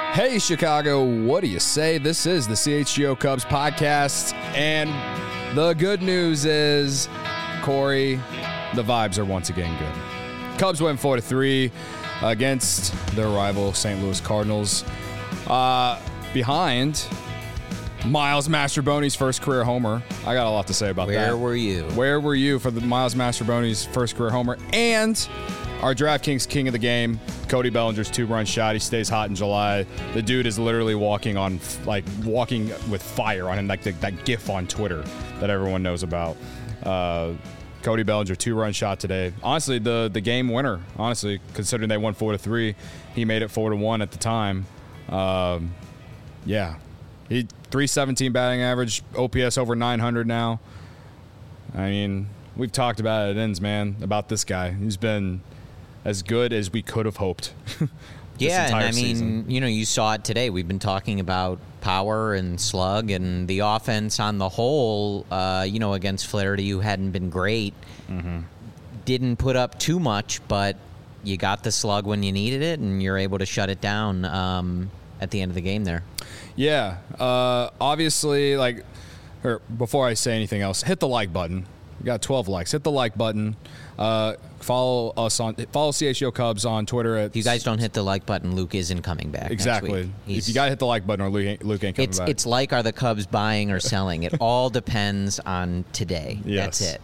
Hey, Chicago, what do you say? This is the CHGO Cubs podcast, and the good news is, Corey, the vibes are once again good. Cubs win 4-3 against their rival St. Louis Cardinals. Behind Miles Mastrobuoni's first career homer. I got a lot to say about that. Where were you? Where were you for the Miles Mastrobuoni's first career homer? And our DraftKings king of the game, Cody Bellinger's 2-run shot. He stays hot in July. The dude is literally walking with fire on him, like that GIF on Twitter that everyone knows about. Cody Bellinger, 2-run shot today. Honestly, the game winner. Honestly, considering they won 4-3, he made it 4-1 at the time. Yeah, he 317 batting average, OPS over 900 now. I mean, we've talked about it at ends, man, about this guy. He's been as good as we could have hoped. Yeah, and I mean, season. you saw it today. We've been talking about power and slug and the offense on the whole, against Flaherty, who hadn't been great. Mm-hmm. Didn't put up too much, but you got the slug when you needed it, and you're able to shut it down at the end of the game there. Yeah, obviously, before I say anything else, hit the like button. We got 12 likes. Hit the like button. Follow CHGO Cubs on Twitter. If you guys don't hit the like button, Luke isn't coming back. Exactly. If you got to hit the like button, or Luke ain't coming back. It's like, are the Cubs buying or selling? It all depends on today. Yes. That's it.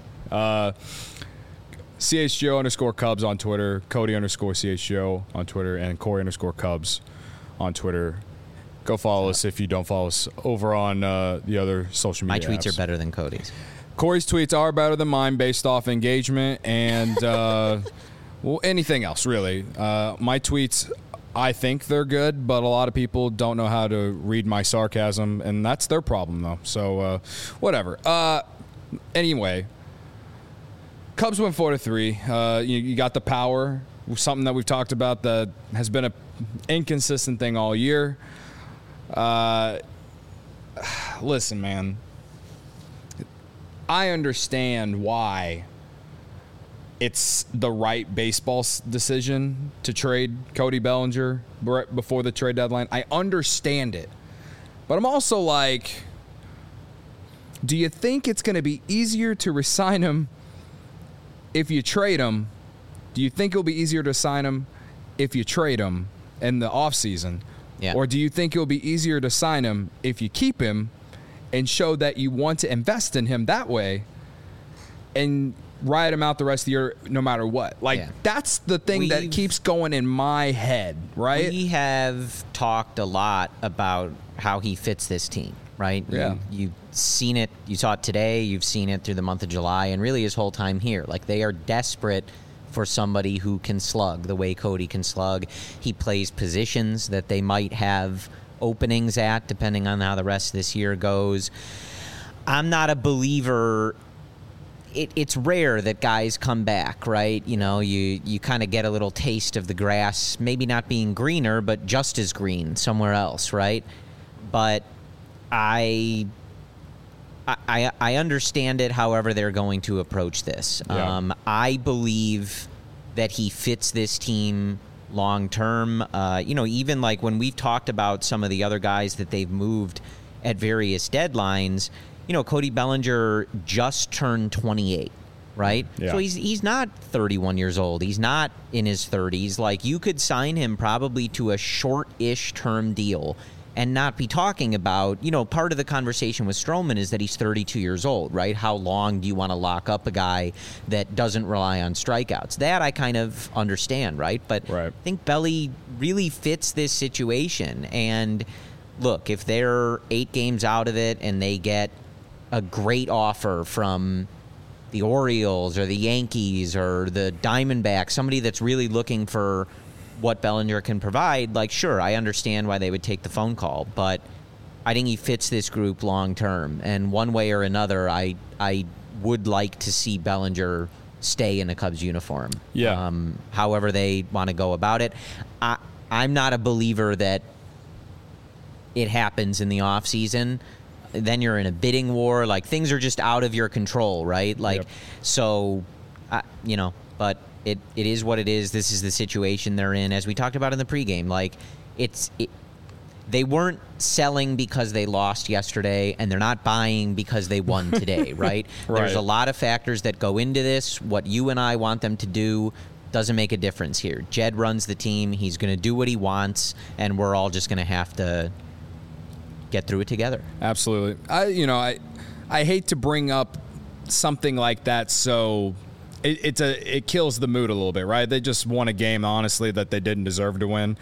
CHGO_Cubs on Twitter, Cody_CHGO on Twitter, and Corey_Cubs on Twitter. Go follow us if you don't follow us over on the other social media My tweets apps. are better than Cody's. Corey's tweets are better than mine based off engagement and anything else, really. My tweets, I think they're good, but a lot of people don't know how to read my sarcasm, and that's their problem, though. So, whatever. Anyway, Cubs win 4-3. You got the power, something that we've talked about that has been an inconsistent thing all year. Listen, man. I understand why it's the right baseball decision to trade Cody Bellinger before the trade deadline. I understand it. But I'm also like, do you think it's going to be easier to resign him if you trade him? Do you think it'll be easier to sign him if you trade him in the offseason? Yeah. Or do you think it'll be easier to sign him if you keep him and show that you want to invest in him that way and ride him out the rest of the year no matter what? That's the thing that keeps going in my head, right? We have talked a lot about how he fits this team, right? Yeah. You've seen it. You saw it today. You've seen it through the month of July and really his whole time here. They are desperate for somebody who can slug the way Cody can slug. He plays positions that they might have openings at, depending on how the rest of this year goes. I'm not a believer. It's rare that guys come back, right? You kind of get a little taste of the grass, maybe not being greener, but just as green somewhere else, right? But I understand it, however they're going to approach this. Yeah. I believe that he fits this team long term. Even when we've talked about some of the other guys that they've moved at various deadlines, Cody Bellinger just turned 28, right? Yeah. So he's not 31 years old. He's not in his 30s. You could sign him probably to a short-ish term deal and not be talking about, part of the conversation with Stroman is that he's 32 years old, right? How long do you want to lock up a guy that doesn't rely on strikeouts? That I kind of understand, right? But right. I think Belly really fits this situation. And look, if they're 8 games out of it and they get a great offer from the Orioles or the Yankees or the Diamondbacks, somebody that's really looking for what Bellinger can provide, sure, I understand why they would take the phone call, but I think he fits this group long term. And one way or another, I would like to see Bellinger stay in a Cubs uniform. Yeah. However they want to go about it. I'm not a believer that it happens in the offseason. Then you're in a bidding war. Things are just out of your control, right? Yep. So, but it is what it is. This is the situation they're in. As we talked about in the pregame, they weren't selling because they lost yesterday, and they're not buying because they won today, right? There's a lot of factors that go into this. What you and I want them to do doesn't make a difference here. Jed runs the team. He's going to do what he wants, and we're all just going to have to get through it together. Absolutely. I hate to bring up something like that, so it kills the mood a little bit, right? They just won a game, honestly, that they didn't deserve to win.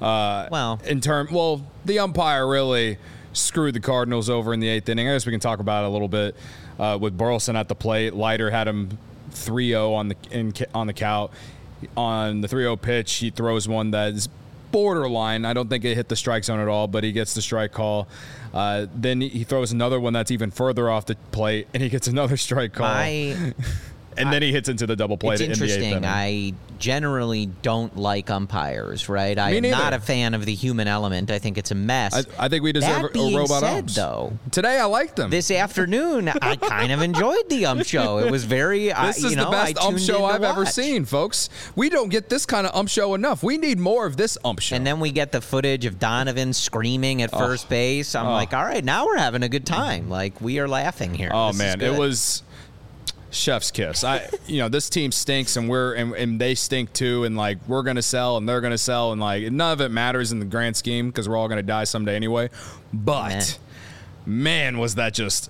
The umpire really screwed the Cardinals over in the 8th inning. I guess we can talk about it a little bit with Burleson at the plate. Leiter had him 3-0 on the count. On the 3-0 pitch, he throws one that is borderline. I don't think it hit the strike zone at all, but he gets the strike call. Then he throws another one that's even further off the plate, and he gets another strike call. And then he hits into the double play. It's in the 8th interesting. inning. I generally don't like umpires, right? I'm not a fan of the human element. I think it's a mess. I think we deserve a robot ump. Though, today I liked them. This afternoon, I kind of enjoyed the ump show. It was very. This is the best ump show I've ever seen, folks. We don't get this kind of ump show enough. We need more of this ump show. And then we get the footage of Donovan screaming at first base. I'm like, all right, now we're having a good time. Like, we are laughing here. Oh, man, it was chef's kiss. This team stinks, and they stink too, and like we're gonna sell and they're gonna sell, and like none of it matters in the grand scheme because we're all gonna die someday anyway. But man, was that just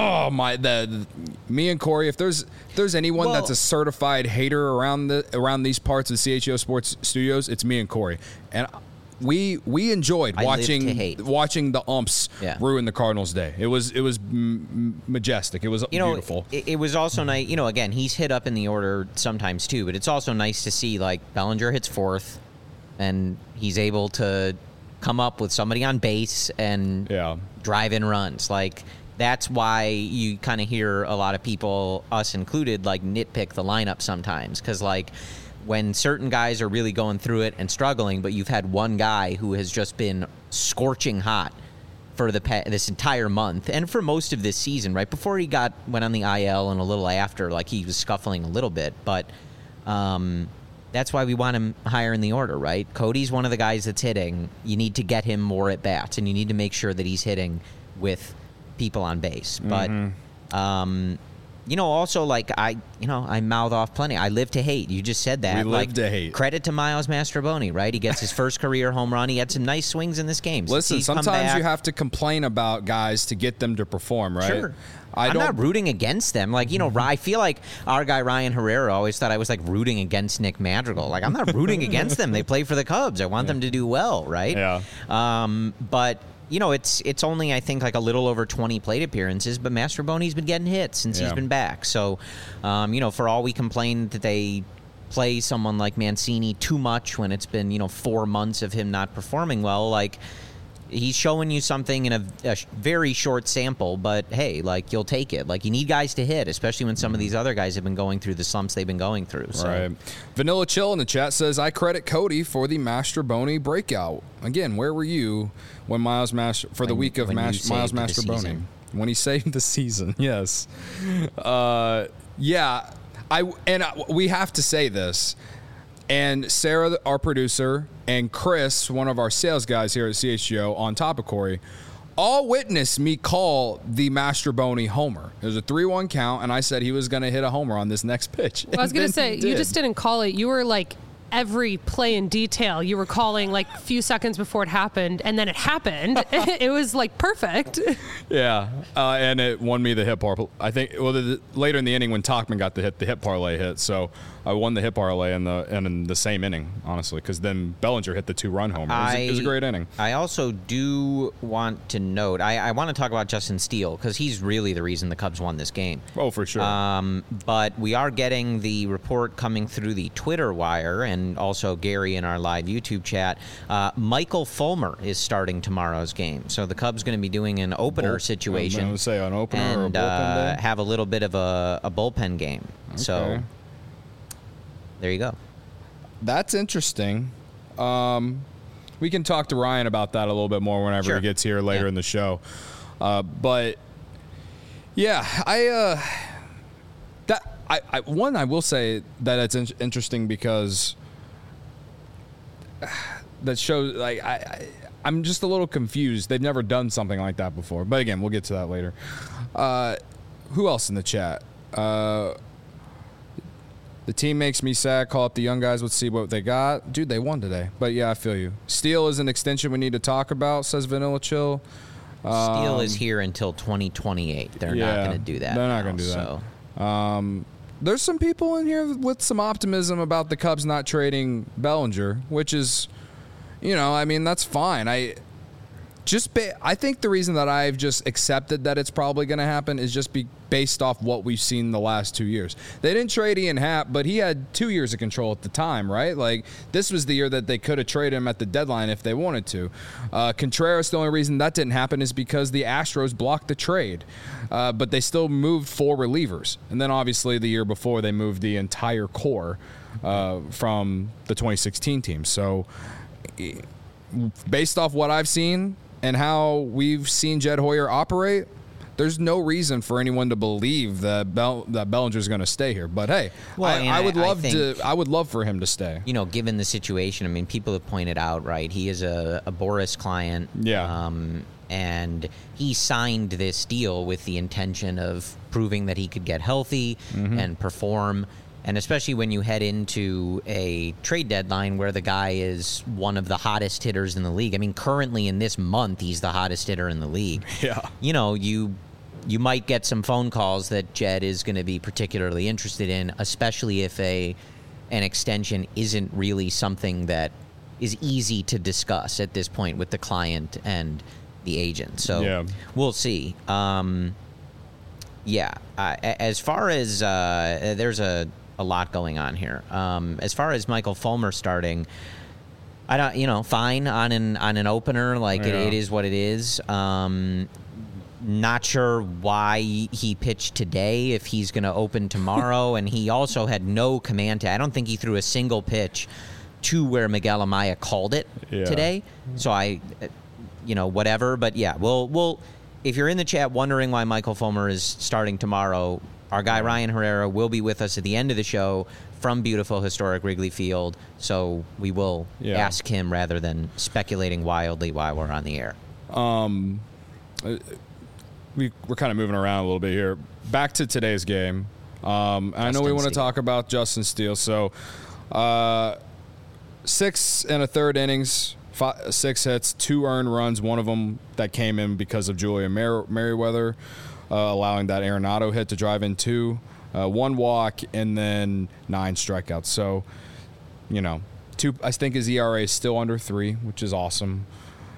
me and Corey. If there's anyone that's a certified hater around these parts of CHGO Sports Studios, it's me and Corey, and we enjoyed watching the umps ruin the Cardinals' day. It was majestic. It was beautiful. It was also nice. Again, he's hit up in the order sometimes too, but it's also nice to see like Bellinger hits 4th, and he's able to come up with somebody on base and drive in runs. Like that's why you kind of hear a lot of people, us included, like nitpick the lineup sometimes because like. When certain guys are really going through it and struggling, but you've had one guy who has just been scorching hot for this entire month and for most of this season, right? Before he went on the IL and a little after, like he was scuffling a little bit, but that's why we want him higher in the order, right? Cody's one of the guys that's hitting. You need to get him more at bats, and you need to make sure that he's hitting with people on base. But also, like, I mouth off plenty. I live to hate. You just said that. We live to hate. Credit to Miles Mastroboni, right? He gets his first career home run. He had some nice swings in this game. Listen, sometimes you have to complain about guys to get them to perform, right? Sure. I'm not rooting against them. Like, I feel like our guy Ryan Herrera always thought I was, like, rooting against Nick Madrigal. Like, I'm not rooting against them. They play for the Cubs. I want them to do well, right? Yeah. But... it's only, I think, like a little over 20 plate appearances, but Mastroboni's been getting hits since he's been back. So, for all we complain that they play someone like Mancini too much when it's been, 4 months of him not performing well, like, he's showing you something in a very short sample, but hey, like, you'll take it. Like, you need guys to hit, especially when some of these other guys have been going through the slumps they've been going through. So. Right. Vanilla Chill in the chat says, I credit Cody for the Mastroboni breakout. Again, where were you when Miles Mastroboni, when he saved the season? Yes. We have to say this. And Sarah, our producer, and Chris, one of our sales guys here at CHGO, on top of Corey, all witnessed me call the Mastroboni homer. It was a 3-1 count, and I said he was going to hit a homer on this next pitch. Well, I was going to say, you just didn't call it. You were like every play in detail. You were calling like a few seconds before it happened, and then it happened. It was like perfect. Yeah, and it won me the hit parlay. I think later in the inning when Tauchman got the hit parlay hit. So I won the hit parlay in the same inning, honestly, because then Bellinger hit the 2-run homer. It was a great inning. I also do want to note, I want to talk about Justin Steele because he's really the reason the Cubs won this game. Oh, for sure. But we are getting the report coming through the Twitter wire and also Gary in our live YouTube chat. Michael Fulmer is starting tomorrow's game. So the Cubs going to be doing an opener situation. I was going to say an opener or a bullpen day? Have a little bit of a bullpen game. Okay. So there you go. That's interesting. We can talk to Ryan about that a little bit more whenever he gets here later in the show. But yeah, I will say that it's interesting because that shows like I'm just a little confused. They've never done something like that before. But again, we'll get to that later. Who else in the chat? The team makes me sad. Call up the young guys. Let's see what they got. Dude, they won today. But yeah, I feel you. Steele is an extension we need to talk about, says Vanilla Chill. Steele is here until 2028. They're not going to do that. They're not going to do that. There's some people in here with some optimism about the Cubs not trading Bellinger, which is, I mean, that's fine. I think the reason that I've just accepted that it's probably going to happen is just based off what we've seen the last 2 years. They didn't trade Ian Happ, but he had 2 years of control at the time, right? Like, this was the year that they could have traded him at the deadline if they wanted to. Contreras, the only reason that didn't happen is because the Astros blocked the trade, but they still moved 4 relievers. And then, obviously, the year before, they moved the entire core from the 2016 team. So, based off what I've seen and how we've seen Jed Hoyer operate, there's no reason for anyone to believe that Bellinger's going to stay here. But hey, I would love for him to stay. Given the situation, I mean, people have pointed out, right? He is a Boris client. Yeah. And he signed this deal with the intention of proving that he could get healthy and perform. And especially when you head into a trade deadline where the guy is one of the hottest hitters in the league. I mean, currently in this month, he's the hottest hitter in the league. Yeah. You might get some phone calls that Jed is going to be particularly interested in, especially if an extension isn't really something that is easy to discuss at this point with the client and the agent. So we'll see. As far as there's a lot going on here. As far as Michael Fulmer starting, I don't, fine on an opener. Like it is what it is. Not sure why he pitched today if he's going to open tomorrow. And he also had no command. I don't think he threw a single pitch to where Miguel Amaya called it today. So whatever. But yeah, we'll. If you're in the chat wondering why Michael Fulmer is starting tomorrow, our guy Ryan Herrera will be with us at the end of the show from beautiful historic Wrigley Field. So we will ask him rather than speculating wildly while we're on the air. We're kind of moving around a little bit here. Back to today's game. I know we want to talk about Justin Steele. So 6 1/3 innings, 6 hits, 2 earned runs, one of them that came in because of Julian Merriweather, allowing that Arenado hit to drive in 2, 1 walk, and then 9 strikeouts. So, I think his ERA is still under 3, which is awesome.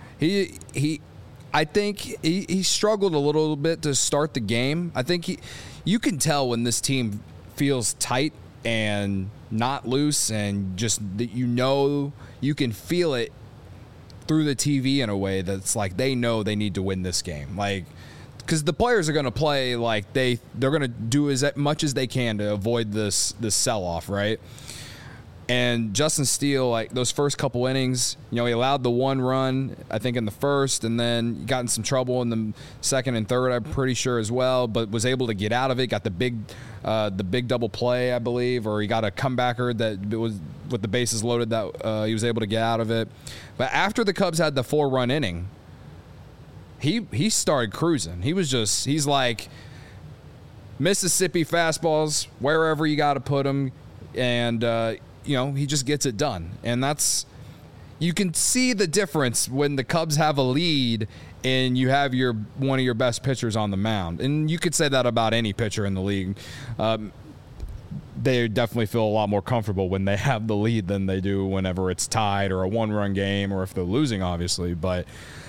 I think he struggled a little bit to start the game. I think you can tell when this team feels tight and not loose, and just that you can feel it through the TV in a way that's like they know they need to win this game. Like, because the players are going to play like they're going to do as much as they can to avoid this sell-off, right? And Justin Steele, like those first couple innings, he allowed the 1 run, I think, in the first, and then got in some trouble in the second and third, I'm pretty sure as well, but was able to get out of it, got the big double play, I believe, or he got a comebacker that was with the bases loaded that he was able to get out of it. But after the Cubs had the 4-run inning, he started cruising. He's like Mississippi fastballs, wherever you got to put them, and he just gets it done. And you can see the difference when the Cubs have a lead and you have one of your best pitchers on the mound. And you could say that about any pitcher in the league. They definitely feel a lot more comfortable when they have the lead than they do whenever it's tied or a 1-run game, or if they're losing, obviously. But,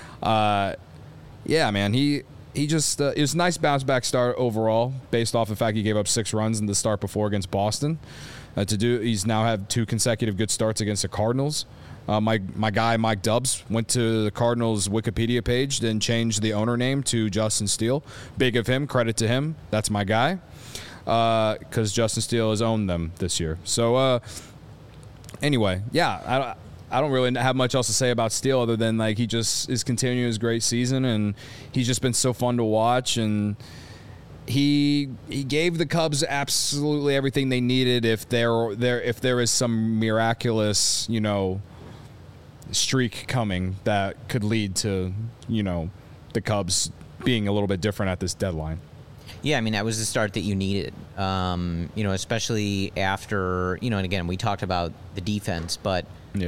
man, he just it was a nice bounce-back start overall based off the fact he gave up 6 runs in the start before against Boston. He's now had 2 consecutive good starts against the Cardinals. My guy Mike Dubs went to the Cardinals Wikipedia page, then changed the owner name to Justin Steele. Big of him, credit to him. That's my guy, because Justin Steele has owned them this year. So anyway, I don't really have much else to say about Steele other than like he just is continuing his great season, and he's just been so fun to watch. And he gave the Cubs absolutely everything they needed. If there is some miraculous, streak coming that could lead to, the Cubs being a little bit different at this deadline. Yeah, I mean, that was the start that you needed, especially after, and again, we talked about the defense, but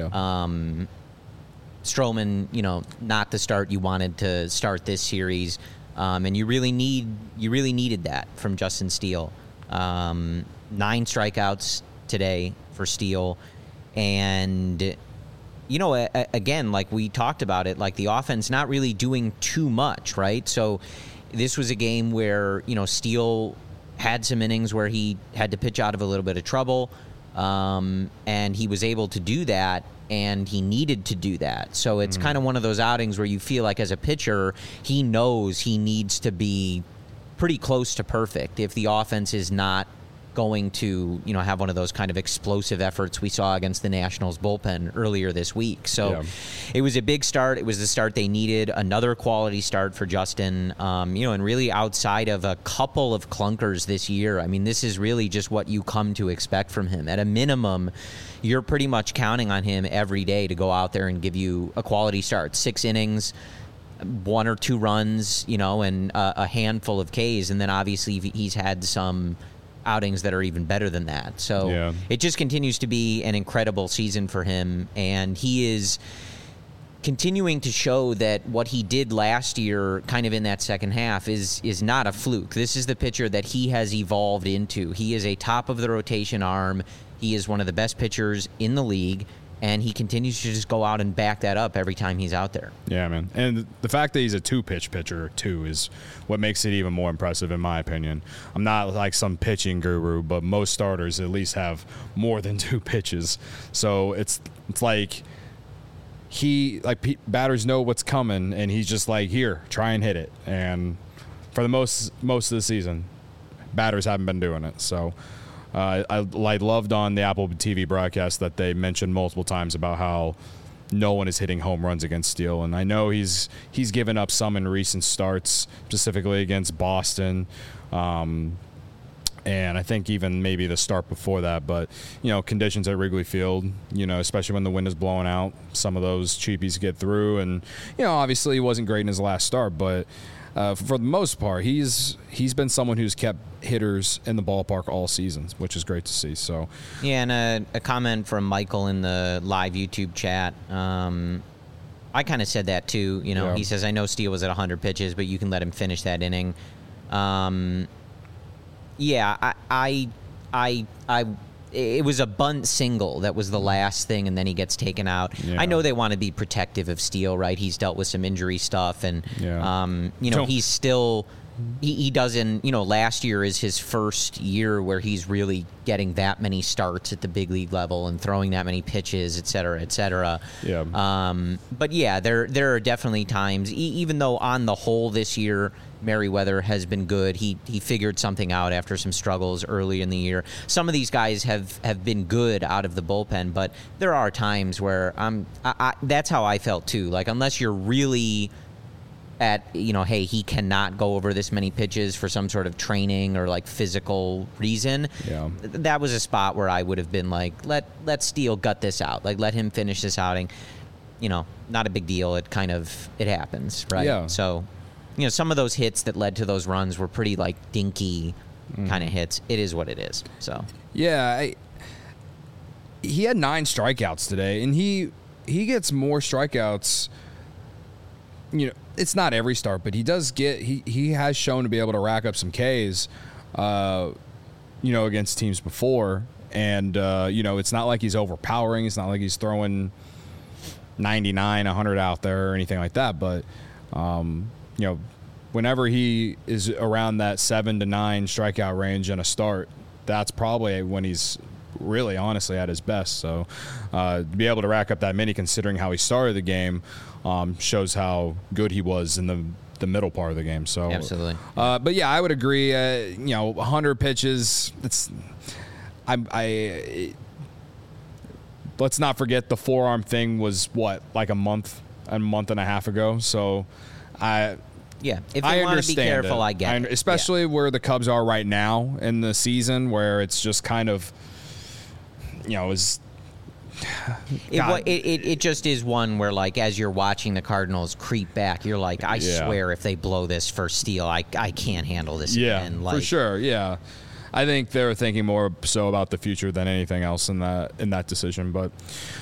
Stroman, not the start you wanted to start this series, and you really needed that from Justin Steele. 9 strikeouts today for Steele, and again, like we talked about it, like the offense not really doing too much, right? So this was a game where, Steele had some innings where he had to pitch out of a little bit of trouble, and he was able to do that, and he needed to do that. So it's kind of one of those outings where you feel like as a pitcher, he knows he needs to be pretty close to perfect if the offense is not going to, have one of those kind of explosive efforts we saw against the Nationals bullpen earlier this week. So It was a big start. It was the start they needed. Another quality start for Justin, and really outside of a couple of clunkers this year, I mean, this is really just what you come to expect from him. At a minimum, you're pretty much counting on him every day to go out there and give you a quality start. 6 innings, 1 or 2 runs, and a handful of Ks. And then obviously he's had some outings that are even better than that. So It just continues to be an incredible season for him, and he is continuing to show that what he did last year kind of in that second half is not a fluke. This is the pitcher that he has evolved into. He is a top of the rotation arm. He is one of the best pitchers in the league, and he continues to just go out and back that up every time he's out there. Yeah, man. And the fact that he's a 2-pitch pitcher, too, is what makes it even more impressive, in my opinion. I'm not like some pitching guru, but most starters at least have more than 2 pitches. So it's like batters know what's coming, and he's just like, here, try and hit it. And for the most of the season, batters haven't been doing it. So I loved on the Apple TV broadcast that they mentioned multiple times about how no one is hitting home runs against Steele. And I know he's given up some in recent starts, specifically against Boston. And I think even maybe the start before that. But, conditions at Wrigley Field, especially when the wind is blowing out, some of those cheapies get through. And, obviously he wasn't great in his last start, but for the most part, he's been someone who's kept hitters in the ballpark all season, which is great to see. So, yeah, and a comment from Michael in the live YouTube chat. I kind of said that too. He says, "I know Steele was at 100 pitches, but you can let him finish that inning." It was a bunt single that was the last thing, and then he gets taken out. Yeah. I know they want to be protective of Steele, right? He's dealt with some injury stuff, and he's still he doesn't. Last year is his first year where he's really getting that many starts at the big league level and throwing that many pitches, et cetera, et cetera. Yeah. But yeah, there are definitely times, even though on the whole this year Merriweather has been good. He figured something out after some struggles early in the year. Some of these guys have been good out of the bullpen, but there are times where that's how I felt too. Like, unless you're really at, hey, he cannot go over this many pitches for some sort of training or like physical reason. Yeah. That was a spot where I would have been like, let Steele gut this out. Like, let him finish this outing. Not a big deal. It happens, right? Yeah. So, some of those hits that led to those runs were pretty like dinky kind of hits. It is what it is. So yeah, he had 9 strikeouts today, and he gets more strikeouts. It's not every start, but he does get. He has shown to be able to rack up some Ks, against teams before, and it's not like he's overpowering. It's not like he's throwing 99, 100 out there or anything like that, but. Whenever he is around that 7 to 9 strikeout range in a start, that's probably when he's really honestly at his best. So to be able to rack up that many, considering how he started the game, shows how good he was in the middle part of the game. So absolutely. But yeah, I would agree. 100 pitches. Let's not forget the forearm thing was like a month and a half ago. So if you want to be careful, I get it. Especially where the Cubs are right now in the season, where it's just kind of, is It just is one where, like, as you're watching the Cardinals creep back, you're like, I swear if they blow this first steal, I can't handle this again. Like, for sure. Yeah, I think they're thinking more so about the future than anything else in that decision. But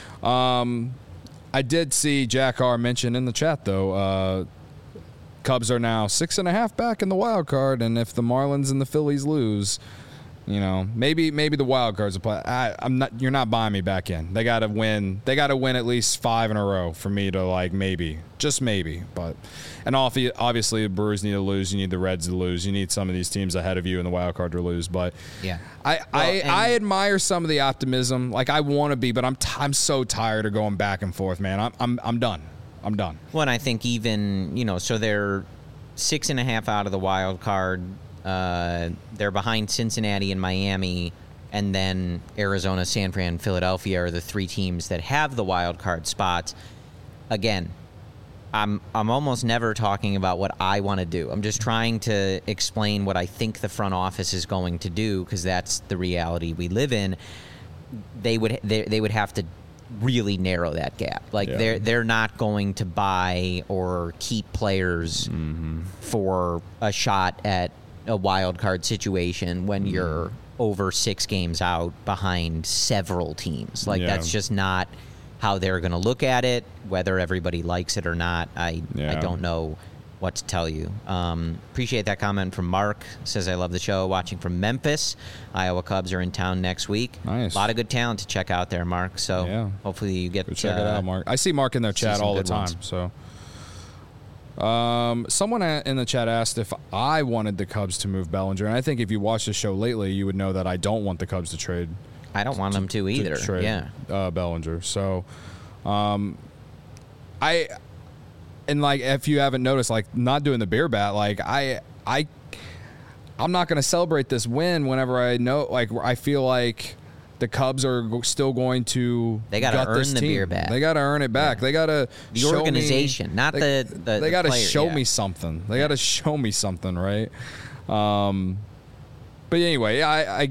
I did see Jack R mention in the chat though. Cubs are now 6.5 back in the wild card, and if the Marlins and the Phillies lose, maybe the wild cards will play. You're not buying me back in. They got to win. They got to win at least 5 in a row for me to just maybe. But and obviously the Brewers need to lose. You need the Reds to lose. You need some of these teams ahead of you in the wild card to lose. But yeah, I admire some of the optimism. Like I want to be, but I'm so tired of going back and forth, man. I'm done. I'm done. Well, and I think even, so they're 6.5 out of the wild card. They're behind Cincinnati and Miami, and then Arizona, San Fran, Philadelphia are the 3 teams that have the wild card spots. Again, I'm almost never talking about what I want to do. I'm just trying to explain what I think the front office is going to do, because that's the reality we live in. They would have to really narrow that gap. Like they're not going to buy or keep players for a shot at a wild card situation when you're over 6 games out behind several teams. Like that's just not how they're going to look at it. Whether everybody likes it or not, I don't know what to tell you. Appreciate that comment from Mark. Says, I love the show. Watching from Memphis. Iowa Cubs are in town next week. Nice. A lot of good talent to check out there, Mark. So hopefully you get to check it out, Mark. I see Mark in their chat all the time. So someone in the chat asked if I wanted the Cubs to move Bellinger, and I think if you watched the show lately, you would know that I don't want the Cubs to trade. I don't want them to either. Bellinger. So And like, if you haven't noticed, like not doing the beer bat, like I'm not going to celebrate this win whenever I know, like I feel like the Cubs are still going to. They got to earn the beer bat. They got to earn it back. Yeah. They got to the organization, not the. They got to show yeah. me something. They got to show me something, right? But anyway,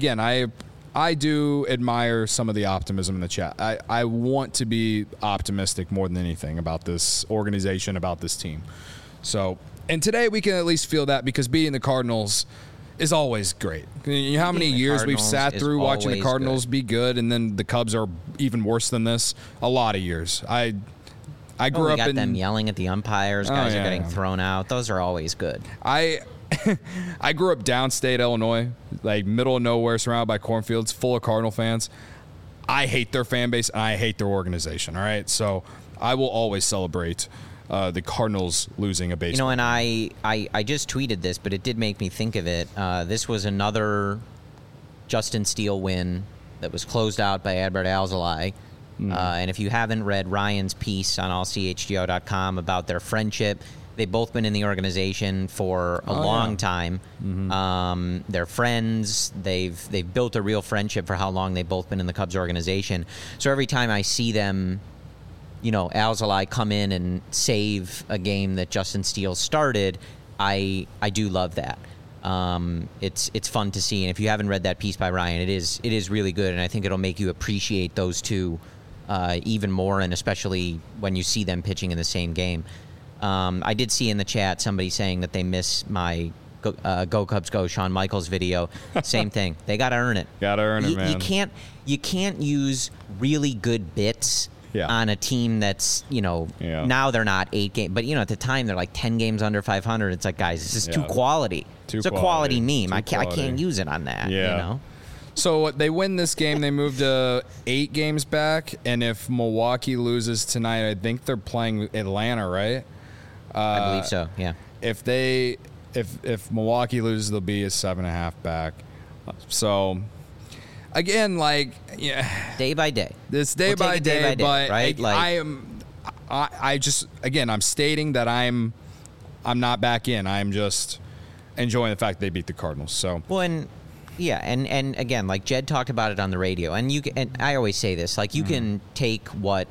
I do admire some of the optimism in the chat. I want to be optimistic more than anything about this organization, about this team. So, and today we can at least feel that, because beating the Cardinals is always great. You know how many years we've sat through watching the Cardinals be good, and then the Cubs are even worse than this? A lot of years. I grew up in them yelling at the umpires. Guys are getting thrown out. Those are always good. I grew up downstate Illinois, like middle of nowhere, surrounded by cornfields, full of Cardinal fans. I hate their fan base, and I hate their organization, all right? So I will always celebrate the Cardinals losing a baseball. And I just tweeted this, but it did make me think of it. This was another Justin Steele win that was closed out by Adbert Alzolay. And if you haven't read Ryan's piece on allchgo.com about their friendship, they've both been in the organization for a long time. Mm-hmm. They're friends. They've built a real friendship for how long they've both been in the Cubs organization. So every time I see them, Alzolay come in and save a game that Justin Steele started, I do love that. It's fun to see. And if you haven't read that piece by Ryan, it is really good, and I think it'll make you appreciate those two even more, and especially when you see them pitching in the same game. I did see in the chat somebody saying that they miss my Go Cubs Go Shawn Michaels video. Same thing. They got to earn it. Got to earn it, man. You can't use really good bits on a team that's, now they're not 8 games. But, at the time, they're like 10 games under 500. It's like, guys, this is too quality. It's a quality meme. I can't use it on that, So they win this game. They move to 8 games back. And if Milwaukee loses tonight, I think they're playing Atlanta, right? I believe so, yeah. If Milwaukee loses, they'll be a 7.5 back. So, again, day by day. It's day by day, but right? I'm stating that I'm not back in. I'm just enjoying the fact they beat the Cardinals. So and again, like Jed talked about it on the radio, and I always say this, you can take what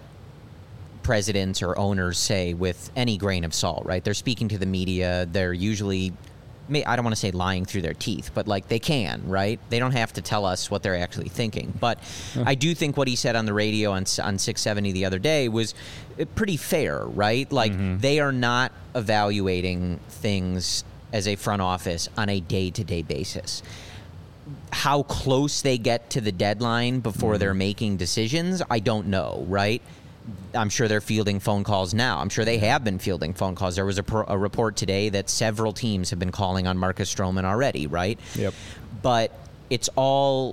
presidents or owners say with any grain of salt, right? They're speaking to the media. They're usually I don't want to say lying through their teeth, but like they can, right? They don't have to tell us what they're actually thinking. But I do think what he said on the radio on 670 the other day was pretty fair, right? Like they are not evaluating things as a front office on a day-to-day basis. How close they get to the deadline before they're making decisions, I don't know, right? I'm sure they're fielding phone calls now. I'm sure they have been fielding phone calls. There was a report today that several teams have been calling on Marcus Stroman already, right? Yep. But it's all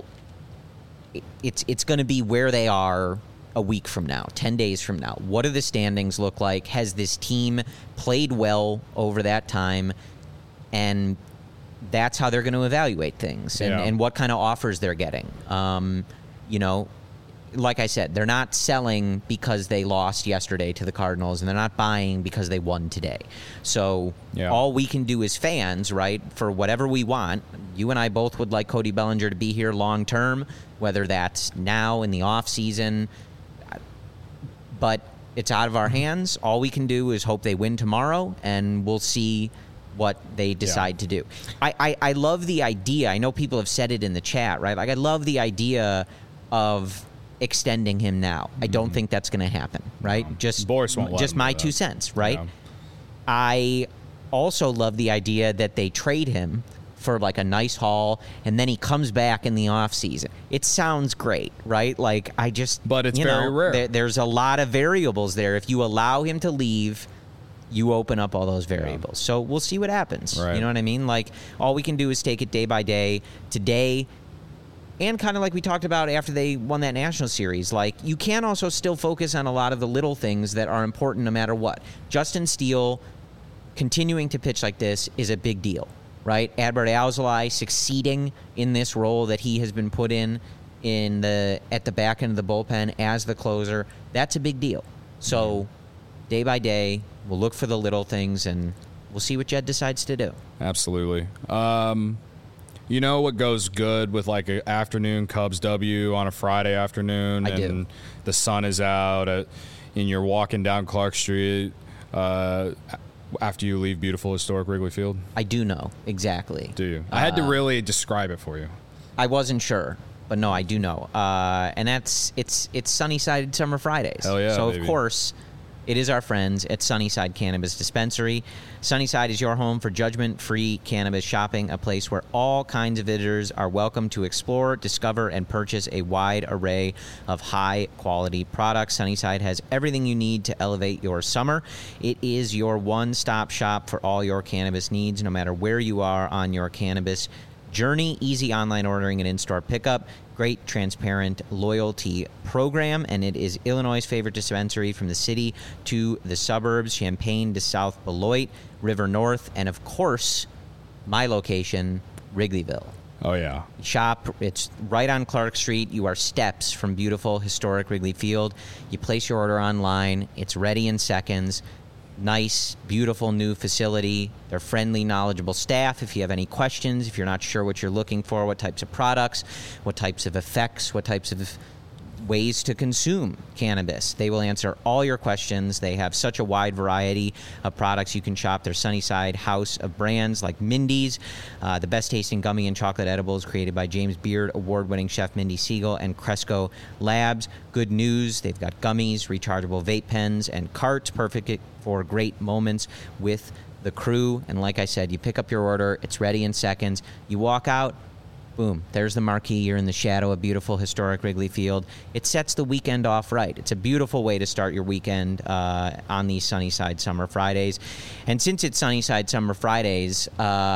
it's going to be where they are a week from now, 10 days from now. What do the standings look like? Has this team played well over that time? And that's how they're going to evaluate things and what kind of offers they're getting. You know, like I said, they're not selling because they lost yesterday to the Cardinals, and they're not buying because they won today. So all we can do as fans, right, for whatever we want, you and I both would like Cody Bellinger to be here long term, whether that's now in the off season, but it's out of our hands. All we can do is hope they win tomorrow, and we'll see what they decide to do. I love the idea. I know people have said it in the chat, right? Like, I love the idea of extending him now. I don't think that's going to happen, right? Boris won't let just him my do 2 that. cents, right? Yeah. I also love the idea that they trade him for like a nice haul, and then he comes back in the off season. It sounds great, right? Like, but it's very rare. There's a lot of variables there. If you allow him to leave, you open up all those variables. So we'll see what happens. Right. You know what I mean? Like, all we can do is take it day by day. Today, and kind of like we talked about after they won that national series, like, you can also still focus on a lot of the little things that are important no matter what. Justin Steele continuing to pitch like this is a big deal, right? Adbert Alzolay succeeding in this role that he has been put in at the back end of the bullpen as the closer, that's a big deal. So day by day, we'll look for the little things, and we'll see what Jed decides to do. Absolutely. You know what goes good with like an afternoon Cubs W on a Friday afternoon, and the sun is out, and you're walking down Clark Street after you leave beautiful historic Wrigley Field? I do know exactly. Do you? I had to really describe it for you. I wasn't sure, but no, I do know. And it's Sunnyside Summer Fridays. Hell yeah, So baby. of course, it is our friends at Sunnyside Cannabis Dispensary. Sunnyside is your home for judgment-free cannabis shopping, a place where all kinds of visitors are welcome to explore, discover, and purchase a wide array of high-quality products. Sunnyside has everything you need to elevate your summer. It is your one-stop shop for all your cannabis needs, no matter where you are on your cannabis journey. Easy online ordering and in-store pickup. Great, transparent loyalty program, and it is Illinois' favorite dispensary from the city to the suburbs, Champaign to South Beloit, River North, and of course, my location, Wrigleyville. Oh, yeah. Shop, it's right on Clark Street. You are steps from beautiful, historic Wrigley Field. You place your order online. It's ready in seconds. Nice, beautiful new facility. They're friendly, knowledgeable staff. If you have any questions, if you're not sure what you're looking for, what types of products, what types of effects, what types of ways to consume cannabis, they will answer all your questions. They have such a wide variety of products you can shop. Their Sunnyside house of brands like Mindy's, the best tasting gummy and chocolate edibles created by James Beard award-winning chef Mindy Siegel and Cresco Labs. Good news, they've got gummies, rechargeable vape pens, and carts, perfect for great moments with the crew. And like I said, you pick up your order, it's ready in seconds. You walk out, boom, there's the marquee. You're in the shadow of beautiful, historic Wrigley Field. It sets the weekend off right. It's a beautiful way to start your weekend on these Sunnyside Summer Fridays. And since it's Sunnyside Summer Fridays,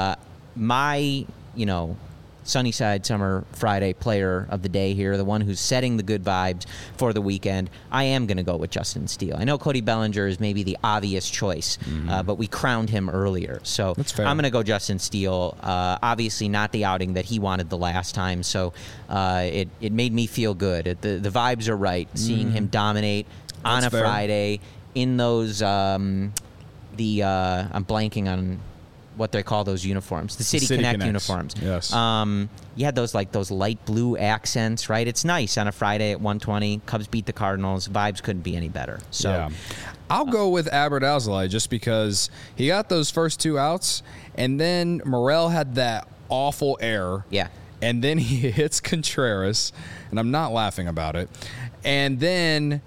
my, Sunnyside Summer Friday player of the day here, the one who's setting the good vibes for the weekend, I am going to go with Justin Steele. I know Cody Bellinger is maybe the obvious choice, but we crowned him earlier. So I'm going to go Justin Steele. Obviously not the outing that he wanted the last time, so it made me feel good. The vibes are right, seeing him dominate on a Friday in those, I'm blanking on what they call those uniforms, the City City Connect Connects. uniforms. Yes. You had those light blue accents, right? It's nice on a Friday at 1:20. Cubs beat the Cardinals. Vibes couldn't be any better. So. Yeah. I'll go with Albert Alzolay just because he got those first 2 outs, and then Morel had that awful error. Yeah. And then he hits Contreras, and I'm not laughing about it. And then,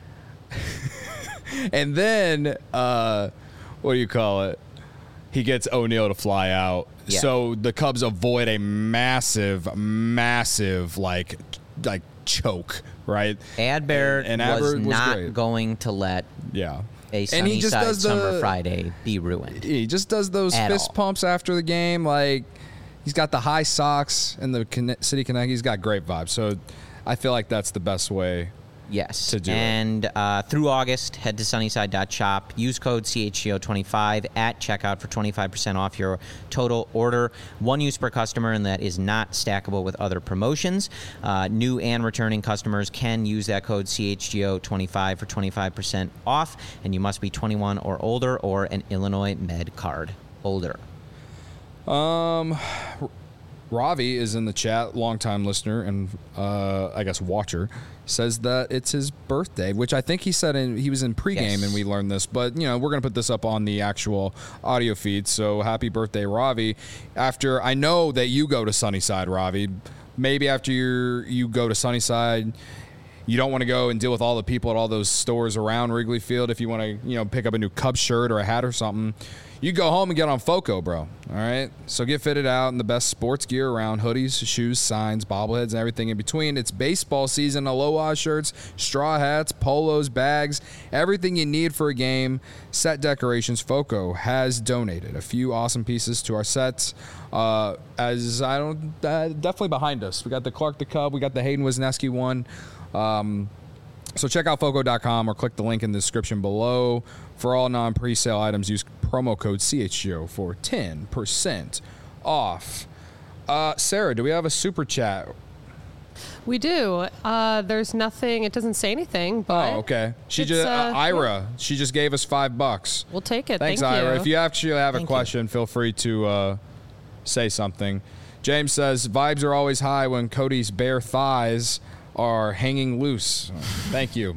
what do you call it? He gets O'Neill to fly out. Yeah. So the Cubs avoid a massive, like choke, right? Adbert And was Adbert was not great. going to let Yeah. a And he just Sunnyside does Summer Friday be ruined. He just does those At fist all. pumps after the game. Like, he's got the high socks and the City Connect. He's got great vibes. So I feel like that's the best way. Yes. To do it. and through August, head to sunnyside.shop. Use code CHGO25 at checkout for 25% off your total order. One use per customer, and that is not stackable with other promotions. New and returning customers can use that code CHGO25 for 25% off, and you must be 21 or older or an Illinois Med card holder. Ravi is in the chat, longtime listener and I guess watcher, says that it's his birthday, which I think he said he was in pregame Yes. and we learned this, but we're going to put this up on the actual audio feed. So happy birthday, Ravi. After I know that you go to Sunnyside, Ravi, maybe after you go to Sunnyside, you don't want to go and deal with all the people at all those stores around Wrigley Field. If you want to, pick up a new Cubs shirt or a hat or something, you go home and get on Foco, bro. All right? So get fitted out in the best sports gear around: hoodies, shoes, signs, bobbleheads, and everything in between. It's baseball season. Aloha shirts, straw hats, polos, bags, everything you need for a game. Set decorations. Foco has donated a few awesome pieces to our sets. Definitely behind us. We got the Clark the Cub. We got the Hayden Wisniewski one. So check out Foco.com or click the link in the description below. For all non-presale items, use promo code CHGO for 10% off. Sarah, do we have a super chat? We do. There's nothing. It doesn't say anything, but Oh, okay. She it's, just yeah. Ira. She just gave us $5. We'll take it. Thanks, Thank Ira. you. If you actually have a Thank you. question, feel free to say something. James says vibes are always high when Cody's bare thighs are hanging loose. Thank you.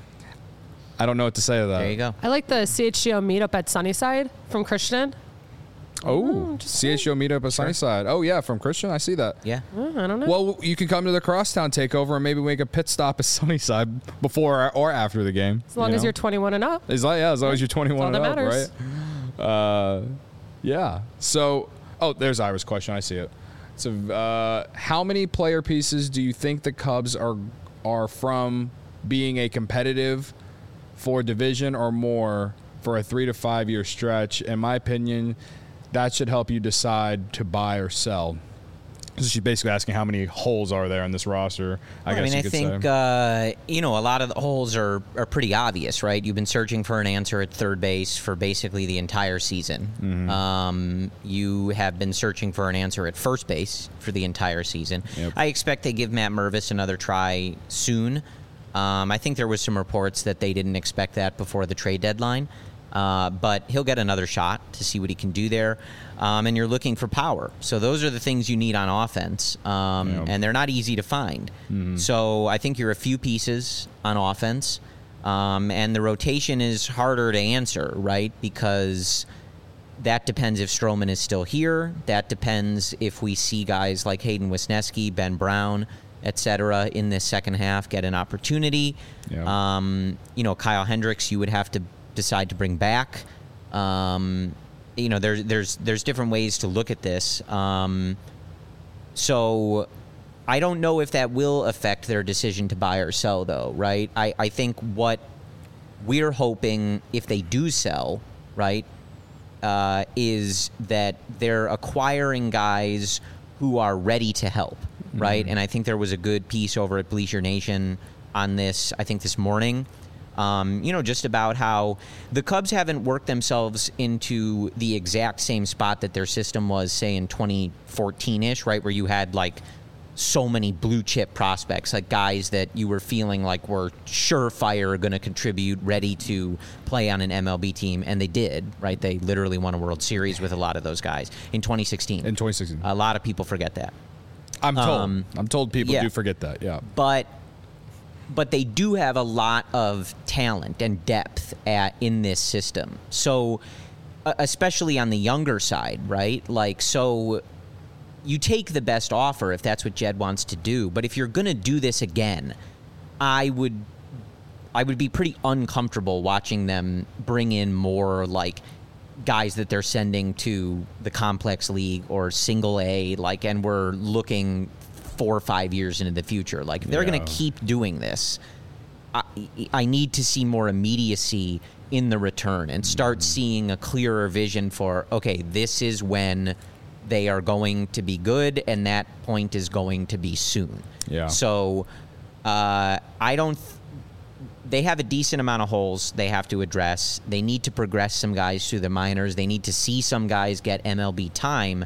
I don't know what to say to that. There you go. I like the CHGO meetup at Sunnyside from Christian. Oh, just CHGO meetup at Sunnyside. Oh, yeah, from Christian. I see that. Yeah. I don't know. Well, you can come to the Crosstown takeover and maybe make a pit stop at Sunnyside before or after the game. as long as you're 21 and up. As long as you're 21 That's all and that up, matters. right? Yeah. So, there's Ira's question. I see it. So, how many player pieces do you think the Cubs are from being a competitive for division or more for a 3 to 5 year stretch? In my opinion, that should help you decide to buy or sell. So she's basically asking how many holes are there in this roster. I guess you could think say. a lot of the holes are pretty obvious, right? You've been searching for an answer at third base for basically the entire season. Mm-hmm. You have been searching for an answer at first base for the entire season. Yep. I expect they give Matt Mervis another try soon. I think there was some reports that they didn't expect that before the trade deadline. But he'll get another shot to see what he can do there. And you're looking for power. So those are the things you need on offense. And they're not easy to find. Mm-hmm. So I think you're a few pieces on offense. And the rotation is harder to answer, right? Because that depends if Stroman is still here. That depends if we see guys like Hayden Wisniewski, Ben Brown, et cetera, in this second half get an opportunity. Yeah. Kyle Hendricks, you would have to decide to bring back. There's different ways to look at this. So I don't know if that will affect their decision to buy or sell, though, right? I think what we're hoping, if they do sell, right, is that they're acquiring guys who are ready to help, right? Mm-hmm. And I think there was a good piece over at Bleacher Nation on this, I think this morning, just about how the Cubs haven't worked themselves into the exact same spot that their system was, say, in 2014-ish, right, where you had, like, so many blue chip prospects, like guys that you were feeling like were surefire going to contribute, ready to play on an MLB team, and they did, right? They literally won a World Series with a lot of those guys in 2016. In 2016. A lot of people forget that. I'm told people yeah. do forget that, yeah. But they do have a lot of talent and depth in this system. So, especially on the younger side, right? Like, so you take the best offer if that's what Jed wants to do. But if you're going to do this again, I would be pretty uncomfortable watching them bring in more like guys that they're sending to the complex league or single A, like, and we're looking 4 or 5 years into the future. Like, if they're going to keep doing this, I need to see more immediacy in the return and start seeing a clearer vision for, okay, this is when they are going to be good, and that point is going to be soon. Yeah. So they have a decent amount of holes they have to address. They need to progress some guys through the minors. They need to see some guys get MLB time.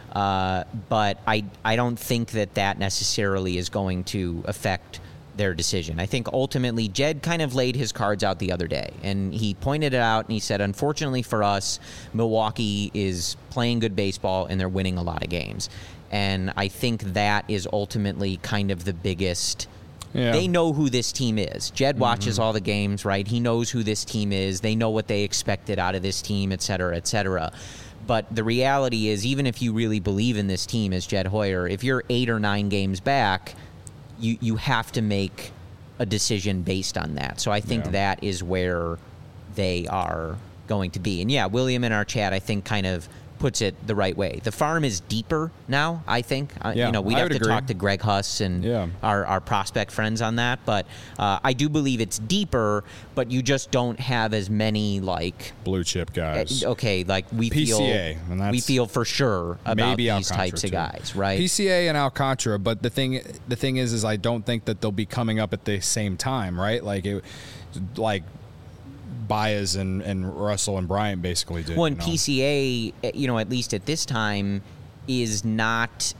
But I don't think that necessarily is going to affect their decision. I think ultimately Jed kind of laid his cards out the other day, and he pointed it out, and he said, unfortunately for us, Milwaukee is playing good baseball and they're winning a lot of games. And I think that is ultimately kind of the biggest. Yeah. They know who this team is. Jed watches all the games, right? He knows who this team is. They know what they expected out of this team, et cetera, et cetera. But the reality is, even if you really believe in this team as Jed Hoyer, if you're 8 or 9 games back, you have to make a decision based on that. So I think that is where they are going to be. And yeah, William in our chat, I think, kind of puts it the right way. The farm is deeper now, I think. We'd have to talk to Greg Huss and our prospect friends on that. But I do believe it's deeper, but you just don't have as many, like, blue chip guys. Okay, like we PCA, feel for sure about these types of guys, right? PCA and Alcantara, but the thing is I don't think that they'll be coming up at the same time, right? Like Baez and Russell and Bryant basically did. Well, and PCA, at least at this time, is not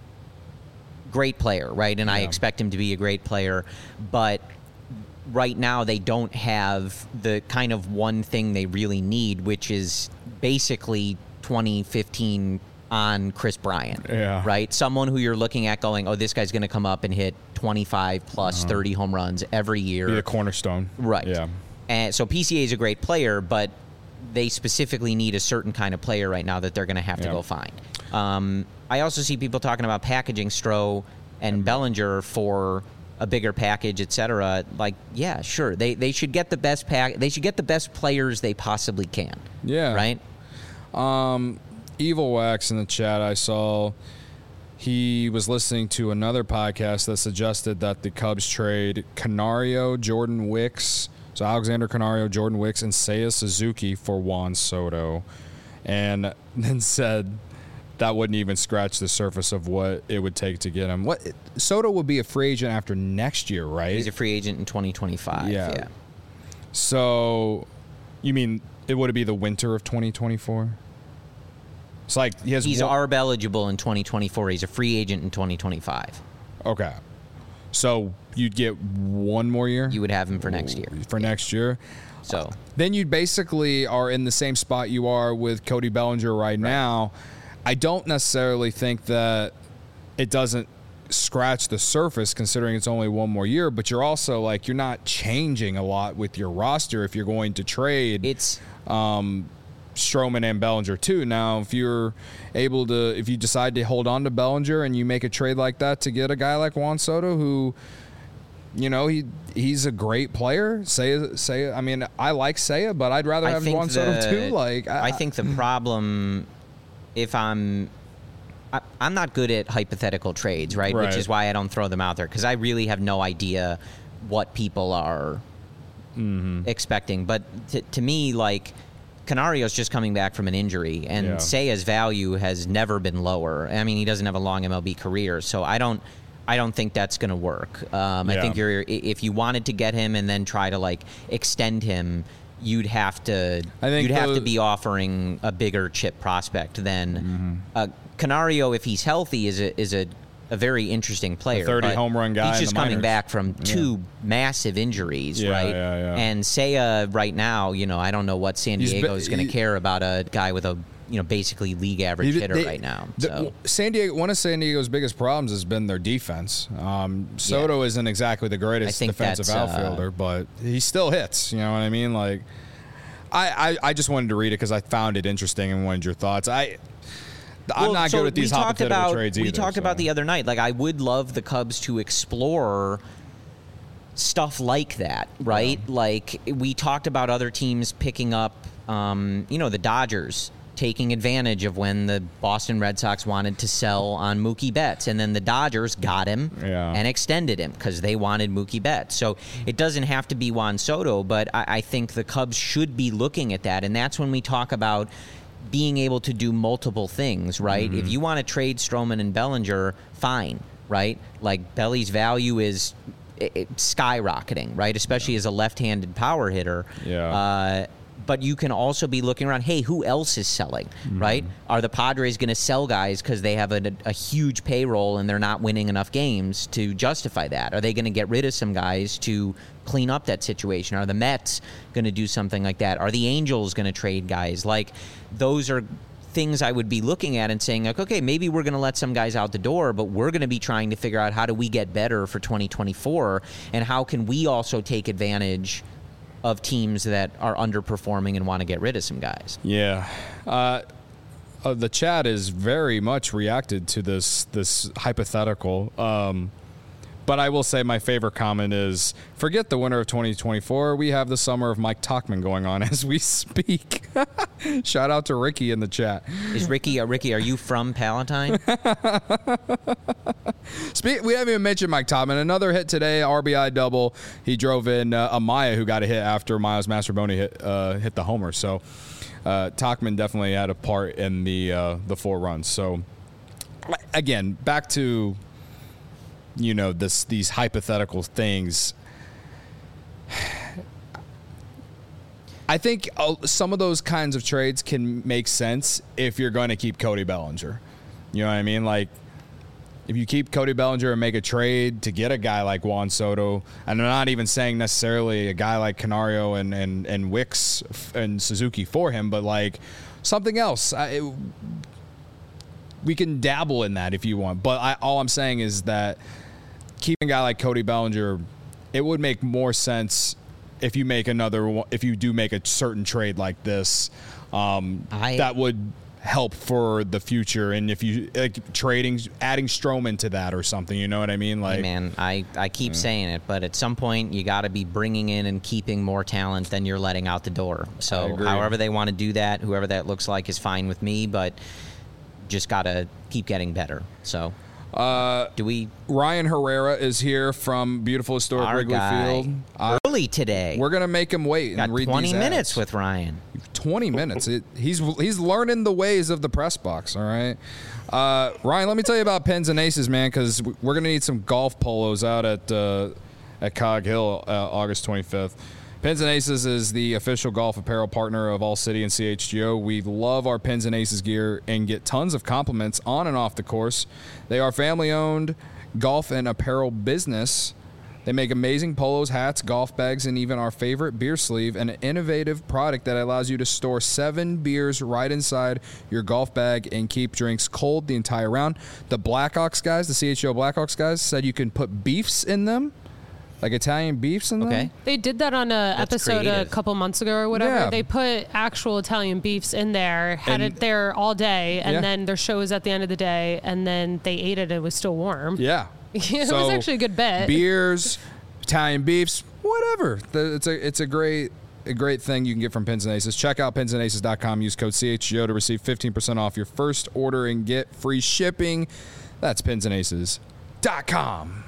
great player, right? And I expect him to be a great player, but right now they don't have the kind of one thing they really need, which is basically 2015 on Chris Bryant, right? Someone who you're looking at going, oh, this guy's going to come up and hit 25 plus 30 home runs every year. Be a cornerstone. Right. Yeah. And so PCA is a great player, but they specifically need a certain kind of player right now that they're going to have to go find. I also see people talking about packaging Stroh and Bellinger for a bigger package, et cetera. Like, yeah, sure. They should get the best they should get the best players they possibly can. Yeah. Right? Evil Wax in the chat, I saw he was listening to another podcast that suggested that the Cubs trade Canario, Jordan Wicks, so Alexander Canario, Jordan Wicks, and Seiya Suzuki for Juan Soto, and then said that wouldn't even scratch the surface of what it would take to get him. Soto will be a free agent after next year, right? He's a free agent in 2025. Yeah. So, you mean it would be the winter of 2024? It's like he's ARB eligible in 2024. He's a free agent in 2025. Okay. So you'd get one more year? You would have him for next year. Next year. So then you basically are in the same spot you are with Cody Bellinger right now. I don't necessarily think that it doesn't scratch the surface considering it's only one more year, but you're also like, you're not changing a lot with your roster if you're going to trade. Stroman and Bellinger too. Now, if you decide to hold on to Bellinger and you make a trade like that to get a guy like Juan Soto, who, he's a great player. Seiya. I mean, I like Seiya, but I'd rather have Juan Soto too. I think the problem, I'm not good at hypothetical trades, right? Which is why I don't throw them out there, because I really have no idea what people are expecting. But to me, like, Canario's just coming back from an injury, and Seiya's value has never been lower. I mean, he doesn't have a long MLB career, so I don't think that's going to work. I think if you wanted to get him and then try to like extend him, you'd have to be offering a bigger chip prospect than Canario. If he's healthy, is a a very interesting player. 30 but home run guy He's in just the coming minors. back from two massive injuries, right? Yeah. And Seiya right now, I don't know what San Diego is going to care about a guy with a basically league average hitter right now. So. One of San Diego's biggest problems has been their defense. Soto isn't exactly the greatest defensive outfielder, but he still hits. You know what I mean? Like, I just wanted to read it because I found it interesting and wanted your thoughts. I'm not good at these hypothetical trades either. We talked about the other night. Like, I would love the Cubs to explore stuff like that, right? Yeah. Like, we talked about other teams picking up, the Dodgers taking advantage of when the Boston Red Sox wanted to sell on Mookie Betts, and then the Dodgers got him and extended him because they wanted Mookie Betts. So it doesn't have to be Juan Soto, but I think the Cubs should be looking at that, and that's when we talk about being able to do multiple things, right? Mm-hmm. If you want to trade Stroman and Bellinger, fine, right? Like, Belly's value is skyrocketing, right? Especially as a left-handed power hitter. Yeah. But you can also be looking around, hey, who else is selling, right? Are the Padres going to sell guys because they have a huge payroll and they're not winning enough games to justify that? Are they going to get rid of some guys to clean up that situation? Are the Mets going to do something like that? Are the Angels going to trade guys? Like, those are things I would be looking at and saying, like, okay, maybe we're going to let some guys out the door, but we're going to be trying to figure out how do we get better for 2024, and how can we also take advantage of teams that are underperforming and want to get rid of some guys. Yeah. The chat is very much reacted to this hypothetical. But I will say my favorite comment is, forget the winter of 2024. We have the summer of Mike Tauchman going on as we speak. Shout out to Ricky in the chat. Is Ricky, are you from Palatine? We haven't even mentioned Mike Tauchman. Another hit today, RBI double. He drove in Amaya, who got a hit after Miles Mastroboni hit the homer. So Tauchman definitely had a part in the 4 runs. So, again, back to these hypothetical things. I think some of those kinds of trades can make sense if you're going to keep Cody Bellinger. You know what I mean? Like, if you keep Cody Bellinger and make a trade to get a guy like Juan Soto, and I'm not even saying necessarily a guy like Canario and Wicks and Suzuki for him, but like something else. We can dabble in that if you want. But all I'm saying is that keeping a guy like Cody Bellinger, it would make more sense if you make if you do make a certain trade like this, that would help for the future. And if you adding Stroman to that or something, you know what I mean? Like, hey man, I keep saying it, but at some point you got to be bringing in and keeping more talent than you're letting out the door. So however they want to do that, whoever that looks like is fine with me, but just got to keep getting better. So Ryan Herrera is here from beautiful historic Wrigley Field. Early today. We're going to make him wait and read 20 these minutes ads. With Ryan. 20 minutes. He's learning the ways of the press box, all right? Ryan, let me tell you about Pins and Aces, man, because we're going to need some golf polos out at Cog Hill August 25th. Pins and Aces is the official golf apparel partner of All City and CHGO. We love our Pins and Aces gear and get tons of compliments on and off the course. They are family-owned golf and apparel business. They make amazing polos, hats, golf bags, and even our favorite beer sleeve, an innovative product that allows you to store 7 beers right inside your golf bag and keep drinks cold the entire round. The Blackhawks guys, the CHGO Blackhawks guys, said you can put beefs in them. Like Italian beefs in them? Okay. They did that on an episode a couple months ago or whatever. Yeah. They put actual Italian beefs in there, had it there all day, and then their show was at the end of the day, and then they ate it and it was still warm. Yeah. It was actually a good bet. Beers, Italian beefs, whatever. It's a great thing you can get from Pins and Aces. Check out pinsandaces.com. Use code CHGO to receive 15% off your first order and get free shipping. That's pinsandaces.com.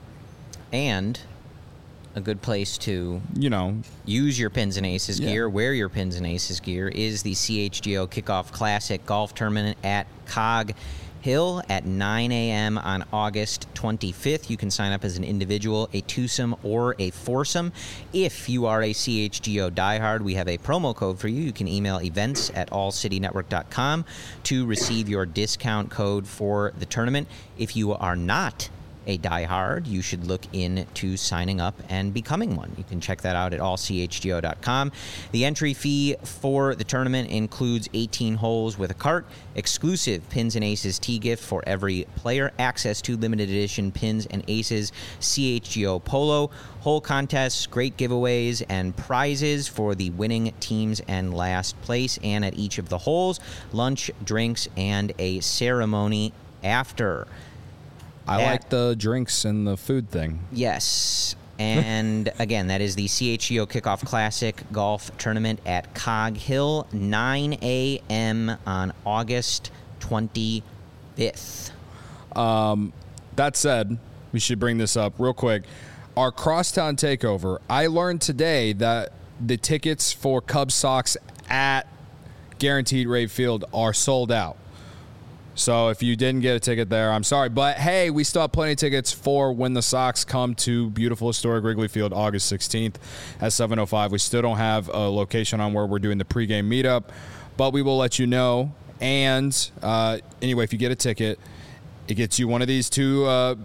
And a good place to use your Pins and Aces gear, wear your Pins and Aces gear, is the CHGO Kickoff Classic Golf Tournament at Cog Hill at 9 a.m. on August 25th. You can sign up as an individual, a twosome, or a foursome. If you are a CHGO diehard, we have a promo code for you. You can email events@allcitynetwork.com to receive your discount code for the tournament. If you are not a diehard, you should look into signing up and becoming one. You can check that out at allchgo.com. The entry fee for the tournament includes 18 holes with a cart, exclusive Pins and Aces tee gift for every player, access to limited edition Pins and Aces CHGO Polo, hole contests, great giveaways, and prizes for the winning teams and last place, and at each of the holes, lunch, drinks, and a ceremony after. I like the drinks and the food thing. Yes. And again, that is the CHGO Kickoff Classic Golf Tournament at Cog Hill, 9 a.m. on August 25th. That said, we should bring this up real quick. Our Crosstown Takeover, I learned today that the tickets for Cubs Sox at Guaranteed Rate Field are sold out. So if you didn't get a ticket there, I'm sorry. But, hey, we still have plenty of tickets for when the Sox come to beautiful historic Wrigley Field August 16th at 7:05. We still don't have a location on where we're doing the pregame meetup, but we will let you know. And anyway, if you get a ticket, it gets you one of these two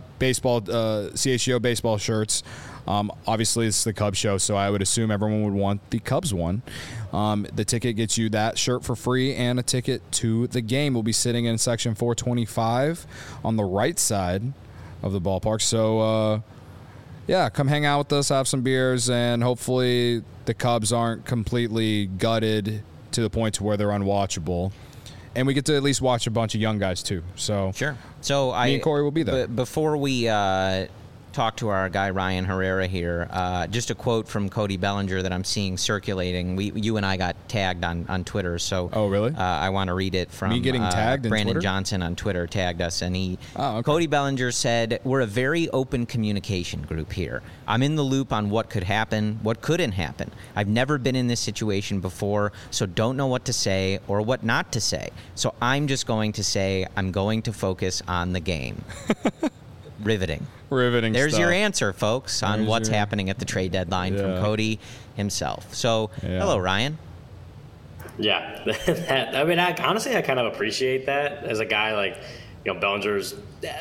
CHGO baseball shirts. Obviously, it's the Cubs show, so I would assume everyone would want the Cubs one. The ticket gets you that shirt for free and a ticket to the game. We'll be sitting in section 425 on the right side of the ballpark. So, come hang out with us, have some beers, and hopefully the Cubs aren't completely gutted to the point to where they're unwatchable. And we get to at least watch a bunch of young guys, too. So sure. So me and Corey will be there. Before we talk to our guy Ryan Herrera here, just a quote from Cody Bellinger that I'm seeing circulating. You and I got tagged on Twitter, so oh really? I want to read it from me getting tagged. Brandon Johnson on Twitter tagged us, and okay. Cody Bellinger said, "We're a very open communication group here. I'm in the loop on what could happen, what couldn't happen. I've never been in this situation before, so don't know what to say or what not to say. So I'm just going to say I'm going to focus on the game." Riveting There's stuff. Your answer, folks, on what's happening at the trade deadline from Cody himself. So, hello, Ryan. Yeah. Honestly, I kind of appreciate that as a guy like, Bellinger's,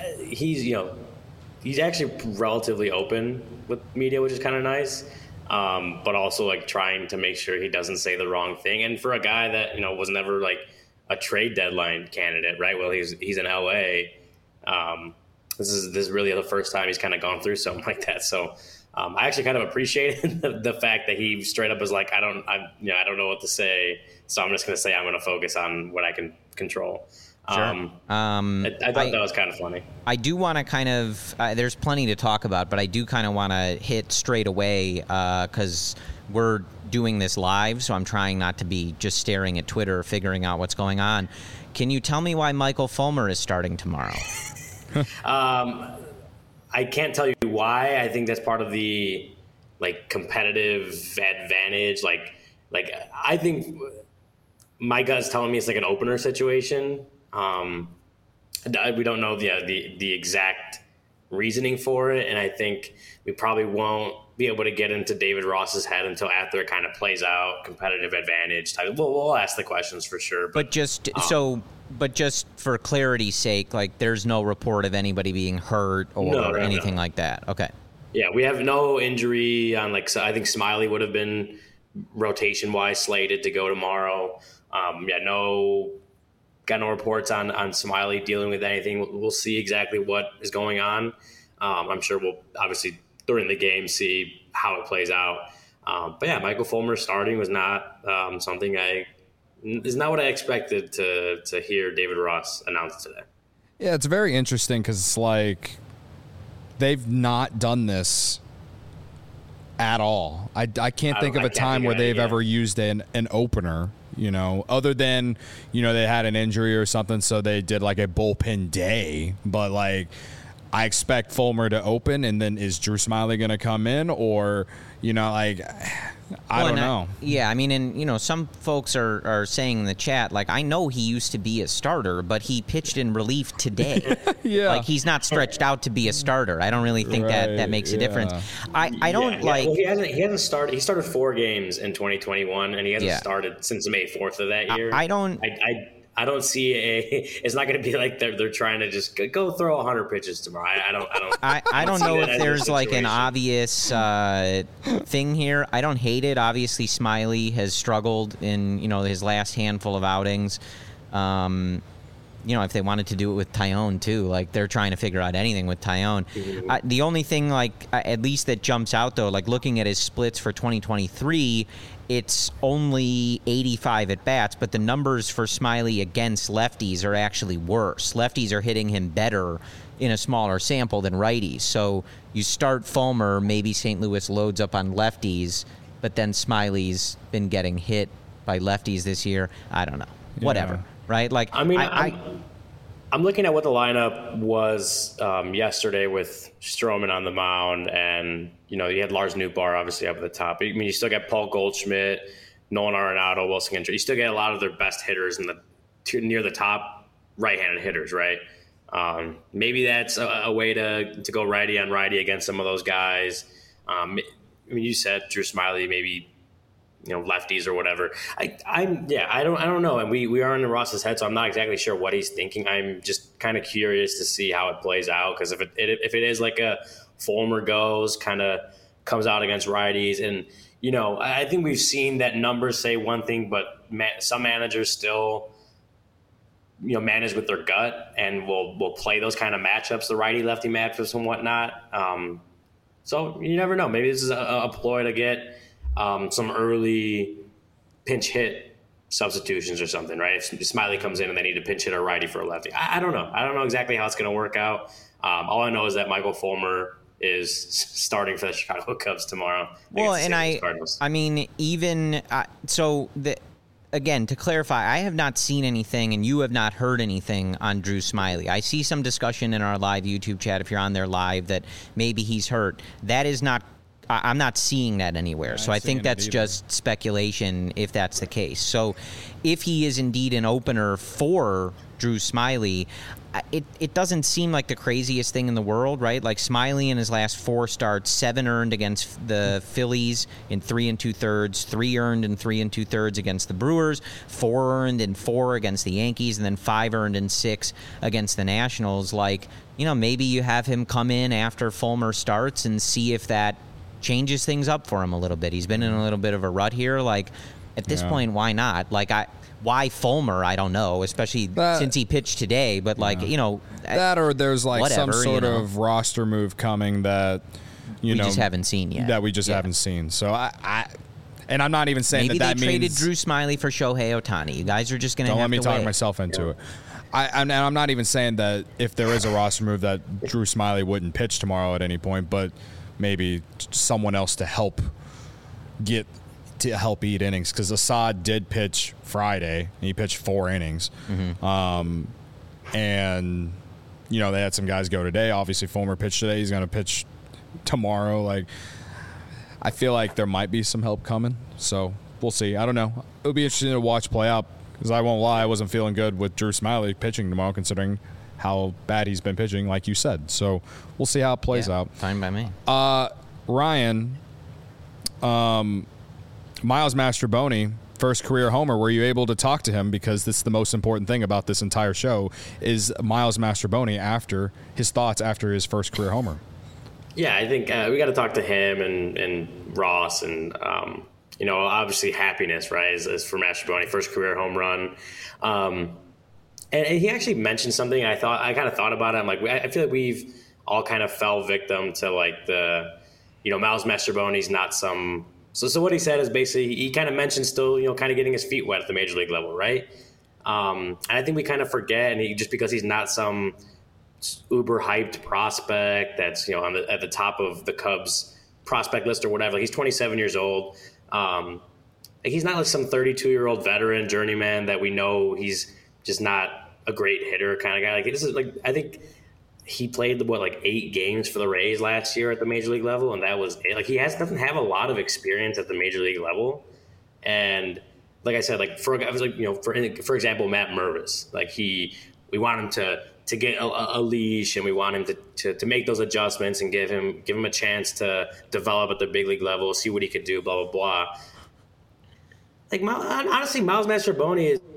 he's actually relatively open with media, which is kind of nice. But also like trying to make sure he doesn't say the wrong thing. And for a guy that, was never like a trade deadline candidate, right? Well, he's in LA. This is really the first time he's kind of gone through something like that. So I actually kind of appreciated the fact that he straight up was like, I don't know what to say. So I'm just going to say I'm going to focus on what I can control. Sure. I thought that was kind of funny. I do want to kind of there's plenty to talk about, but I do kind of want to hit straight away because we're doing this live, so I'm trying not to be just staring at Twitter, figuring out what's going on. Can you tell me why Michael Fulmer is starting tomorrow? I can't tell you why. I think that's part of the competitive advantage. Like I think my gut's telling me it's like an opener situation. We don't know the exact reasoning for it, and I think we probably won't be able to get into David Ross's head until after it kind of plays out. Competitive advantage type. We'll ask the questions for sure. But just for clarity's sake, there's no report of anybody being hurt or anything like that. Okay. Yeah, we have no injury on so I think Smiley would have been rotation wise slated to go tomorrow. Got no reports on Smiley dealing with anything. We'll see exactly what is going on. I'm sure we'll obviously during the game see how it plays out. But yeah, Michael Fulmer starting was not something is not what I expected to hear David Ross announce today. Yeah, it's very interesting because it's they've not done this at all. I can't think of a time where they've ever used an opener, other than, they had an injury or something, so they did a bullpen day. But I expect Fulmer to open, and then is Drew Smiley going to come in? Or, I don't know. I mean, and some folks are saying in the chat, like, I know he used to be a starter, but he pitched in relief today. Yeah. Like, he's not stretched out to be a starter. I don't really think that makes a difference. I don't like. Well, he hasn't started. He started 4 games in 2021, and he hasn't started since May 4th of that year. I don't see it's not going to be like they're trying to just go throw 100 pitches tomorrow. I don't know if there's like an obvious thing here. I don't hate it. Obviously, Smiley has struggled in his last handful of outings. If they wanted to do it with Taillon too, like they're trying to figure out anything with Taillon. The only thing, at least that jumps out though, like looking at his splits for 2023, it's only 85 at bats, but the numbers for Smiley against lefties are actually worse. Lefties are hitting him better in a smaller sample than righties. So you start Fulmer, maybe St. Louis loads up on lefties, but then Smiley's been getting hit by lefties this year. I don't know. Whatever. Right? Like, I mean, I'm looking at what the lineup was yesterday with Stroman on the mound, and you had Lars Nootbaar obviously up at the top. I mean, you still got Paul Goldschmidt, Nolan Arenado, Wilson Contreras. You still get a lot of their best hitters near the top right-handed hitters, right? Maybe that's a way to go righty on righty against some of those guys. I mean, you said Drew Smiley, maybe lefties or whatever. I don't know. And we are in Ross's head, so I'm not exactly sure what he's thinking. I'm just kind of curious to see how it plays out, because if it is like a Fulmer kind of comes out against righties, and I think we've seen that numbers say one thing, but some managers still manage with their gut and will play those kind of matchups, the righty lefty matchups and whatnot. So you never know. Maybe this is a ploy to get some early pinch hit substitutions or something, right? If Smiley comes in and they need to pinch hit a righty for a lefty. I don't know. I don't know exactly how it's going to work out. All I know is that Michael Fulmer is starting for the Chicago Cubs tomorrow. Well, and I mean, even again, to clarify, I have not seen anything and you have not heard anything on Drew Smiley. I see some discussion in our live YouTube chat, if you're on there live, that maybe he's hurt. That is not I'm not seeing that anywhere. So I think that's just speculation if that's the case. So if he is indeed an opener for Drew Smiley, it doesn't seem like the craziest thing in the world, right? Like Smiley in his last 4 starts, 7 earned against the Phillies in 3 2/3, 3 earned in 3 2/3 against the Brewers, 4 earned in 4 against the Yankees, and then 5 earned in 6 against the Nationals. Like, maybe you have him come in after Fulmer starts and see if that changes things up for him a little bit. He's been in a little bit of a rut here. Like, at this point, why not? Like, why Fulmer? I don't know, especially since he pitched today. But that, or there's like whatever, some sort of roster move coming that we just haven't seen yet. That we just haven't seen. So and I'm not even saying maybe that they means traded Drew Smiley for Shohei Ohtani. You guys are just going to have to wait. Don't let me talk myself into it. And I'm not even saying that if there is a roster move that Drew Smiley wouldn't pitch tomorrow at any point, but maybe someone else to help eat innings, because Assad did pitch Friday and he pitched 4 innings. And they had some guys go today. Obviously Fulmer pitched today, he's going to pitch tomorrow. Like, I feel like there might be some help coming, so we'll see. I don't know. It'll be interesting to watch play out, because I won't lie, I wasn't feeling good with Drew Smiley pitching tomorrow, considering how bad he's been pitching, like you said. So we'll see how it plays out. Fine by me. Ryan, Miles Mastrobuoni, first career homer. Were you able to talk to him? Because this is the most important thing about this entire show, is Miles Mastrobuoni after his thoughts after his first career homer. Yeah, I think we got to talk to him and Ross and obviously happiness, right? Is for Mastrobuoni, first career home run. And he actually mentioned something. I kind of thought about it. I'm like, I feel like we've all kind of fell victim to like the, Miles Mastrobuoni's not some. So what he said is basically he kind of mentioned still, kind of getting his feet wet at the major league level, right? And I think we kind of forget, and just because he's not some uber hyped prospect that's at the top of the Cubs prospect list or whatever. Like, he's 27 years old. He's not like some 32-year-old veteran journeyman that we know he's just not a great hitter kind of guy. Like, this is like, I think he played like 8 games for the Rays last year at the major league level, and that was it. Like he doesn't have a lot of experience at the major league level, and like I said, like for example, Matt Mervis, like we want him to get a leash, and we want him to make those adjustments and give him a chance to develop at the big league level, see what he could do, blah blah blah. Like honestly, Miles Mastrobuoni is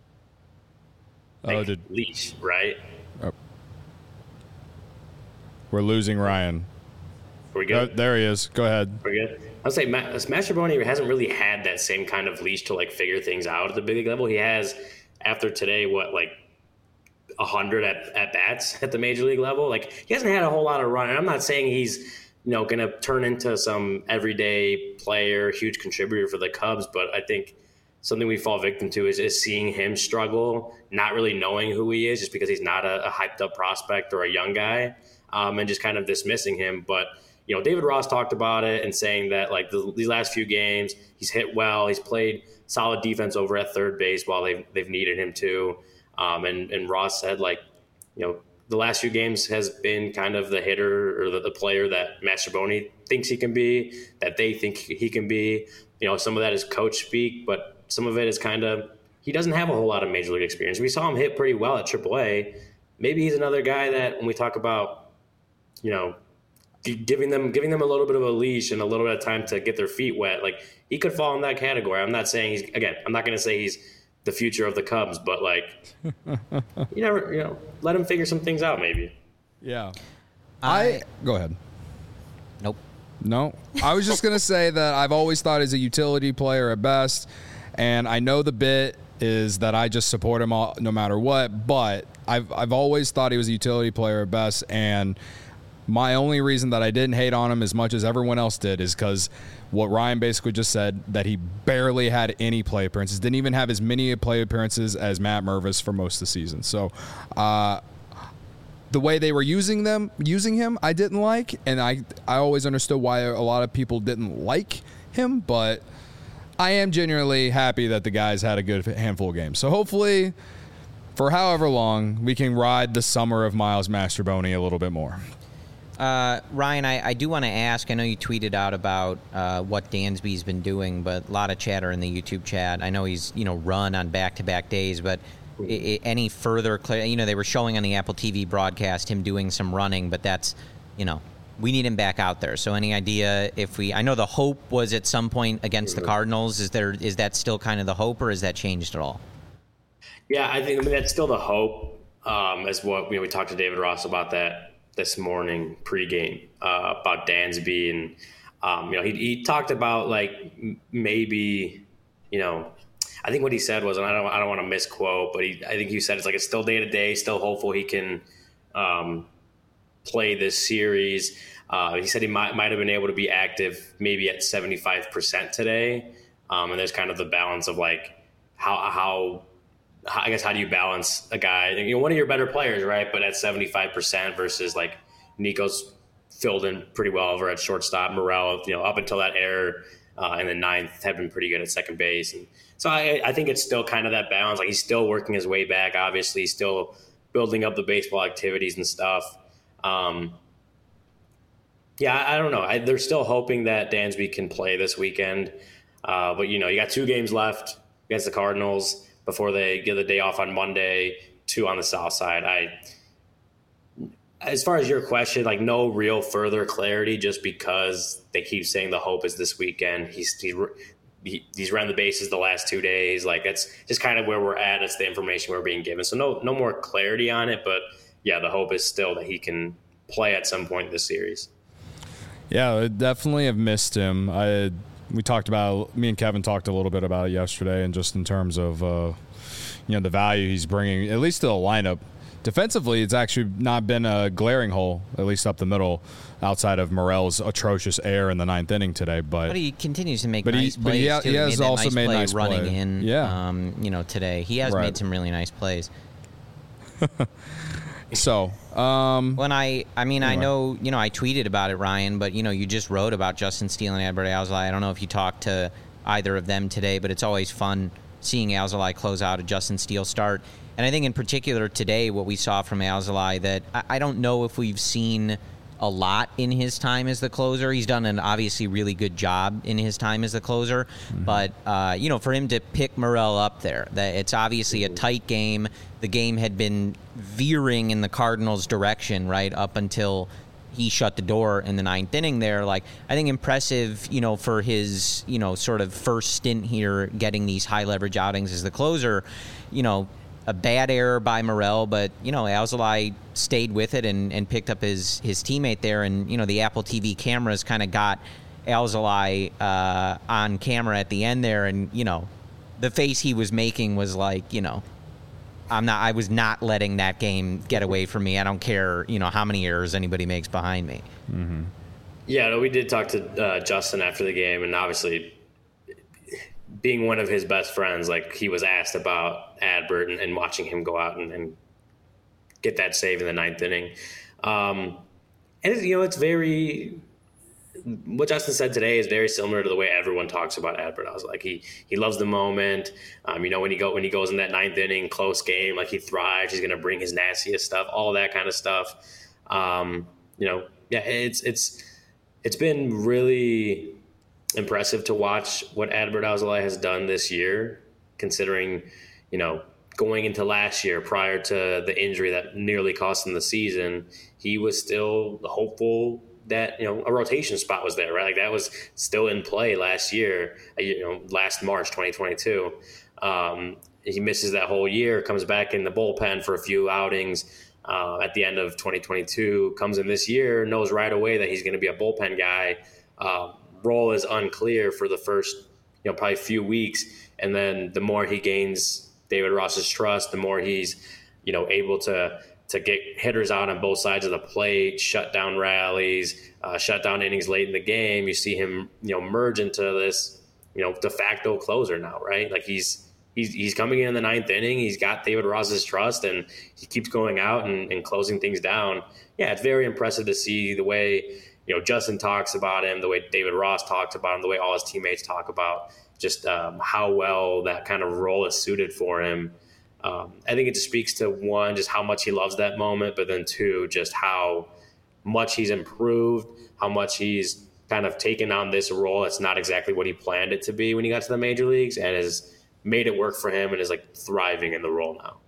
leash, right? Oh. We're losing Ryan. Are we good? There he is. Go ahead. We're good. I'll say Mastrobuoni hasn't really had that same kind of leash to like figure things out at the big league level. He has, after today, 100 at bats at the major league level. Like he hasn't had a whole lot of run. And I'm not saying he's going to turn into some everyday player, huge contributor for the Cubs, but I think something we fall victim to is seeing him struggle, not really knowing who he is just because he's not a hyped up prospect or a young guy, and just kind of dismissing him. But David Ross talked about it and saying that like these last few games, he's hit well, he's played solid defense over at third base while they've needed him to. And Ross said like, the last few games has been kind of the hitter or the player that Mastrobuoni thinks he can be, that they think he can be. Some of that is coach speak, but some of it is kind of he doesn't have a whole lot of major league experience. We saw him hit pretty well at AAA. Maybe he's another guy that when we talk about, giving them a little bit of a leash and a little bit of time to get their feet wet, like he could fall in that category. I'm not saying I'm not going to say he's the future of the Cubs, but like you never, let him figure some things out maybe. Yeah. Go ahead. Nope. No, I was just going to say that I've always thought he's a utility player at best, and I know the bit is that I just support him all, no matter what, but I've always thought he was a utility player at best, and my only reason that I didn't hate on him as much as everyone else did is because what Ryan basically just said, that he barely had any play appearances, didn't even have as many play appearances as Matt Mervis for most of the season. So the way they were using him, I didn't like, and I always understood why a lot of people didn't like him, but I am genuinely happy that the guys had a good handful of games. So hopefully, for however long, we can ride the summer of Miles Mastrobuoni a little bit more. Ryan, I do want to ask, I know you tweeted out about what Dansby's been doing, but a lot of chatter in the YouTube chat. I know he's, run on back-to-back days, but any further they were showing on the Apple TV broadcast him doing some running, but that's, we need him back out there. So any idea I know the hope was at some point against the Cardinals. Is that still kind of the hope, or has that changed at all? Yeah, I think that's still the hope, as what we talked to David Ross about that this morning pregame about Dansby, and he talked about like maybe I think what he said was, and I don't want to misquote, but I think he said it's still day to day, still hopeful he can play this series. He said he might have been able to be active maybe at 75% today, and there's kind of the balance of like how do you balance a guy, one of your better players, right? But at 75% versus like Nico's filled in pretty well over at shortstop. Morel, up until that error in the ninth, had been pretty good at second base. And so I think it's still kind of that balance. Like he's still working his way back. Obviously, still building up the baseball activities and stuff. I don't know. They're still hoping that Dansby can play this weekend. But you got 2 games left against the Cardinals before they get the day off on Monday, 2 on the south side. As far as your question, like no real further clarity, just because they keep saying the hope is this weekend. He's run the bases the last 2 days. Like that's just kind of where we're at. It's the information we're being given. So no more clarity on it. But yeah, the hope is still that he can play at some point this series. Yeah, I definitely have missed him. Me and Kevin talked a little bit about it yesterday, and just in terms of the value he's bringing, at least to the lineup. Defensively, it's actually not been a glaring hole, at least up the middle, outside of Morel's atrocious error in the 9th inning today. But he continues to make nice plays. He has also made nice running play. in. Yeah. Today he has made some really nice plays. So, when I know, I tweeted about it, Ryan, but you just wrote about Justin Steele and Adbert Alzolay. I don't know if you talked to either of them today, but it's always fun seeing Alzolay close out a Justin Steele start. And I think in particular today, what we saw from Alzolay that I don't know if we've seen a lot in his time as the closer. He's done an obviously really good job in his time as the closer. But, for him to pick Morel up there, that it's obviously a tight game. The game had been veering in the Cardinals' direction, right, up until he shut the door in the ninth inning there. Like, I think impressive, for his, sort of first stint here, getting these high leverage outings as the closer, a bad error by Morel, but, Alzolay stayed with it and picked up his teammate there. And, the Apple TV cameras kind of got Alzolay on camera at the end there. And, the face he was making was like, I was not letting that game get away from me. I don't care, how many errors anybody makes behind me. Mm-hmm. Yeah, no, we did talk to Justin after the game, and obviously being one of his best friends, like, he was asked about Adbert and watching him go out and get that save in the ninth inning. And it's very, what Justin said today is very similar to the way everyone talks about Adbert. I was like, he loves the moment. When he goes in that ninth inning, close game, like, he thrives. He's going to bring his nastiest stuff, all that kind of stuff. It's been really impressive to watch what Adbert Alzolay has done this year, considering, going into last year prior to the injury that nearly cost him the season, he was still hopeful that, a rotation spot was there, right? Like, that was still in play last year, last March 2022. He misses that whole year, comes back in the bullpen for a few outings at the end of 2022, comes in this year, knows right away that he's going to be a bullpen guy. Role is unclear for the first, probably few weeks. And then the more he gains David Ross's trust, the more he's, able to get hitters out on both sides of the plate, shut down rallies, shut down innings late in the game. You see him, merge into this, de facto closer now, right? Like, he's coming in the ninth inning. He's got David Ross's trust, and he keeps going out and closing things down. Yeah, it's very impressive to see the way, Justin talks about him, the way David Ross talks about him, the way all his teammates talk about just how well that kind of role is suited for him. I think it just speaks to, one, just how much he loves that moment, but then two, just how much he's improved, how much he's kind of taken on this role. It's not exactly what he planned it to be when he got to the major leagues, and has made it work for him and is, like, thriving in the role now.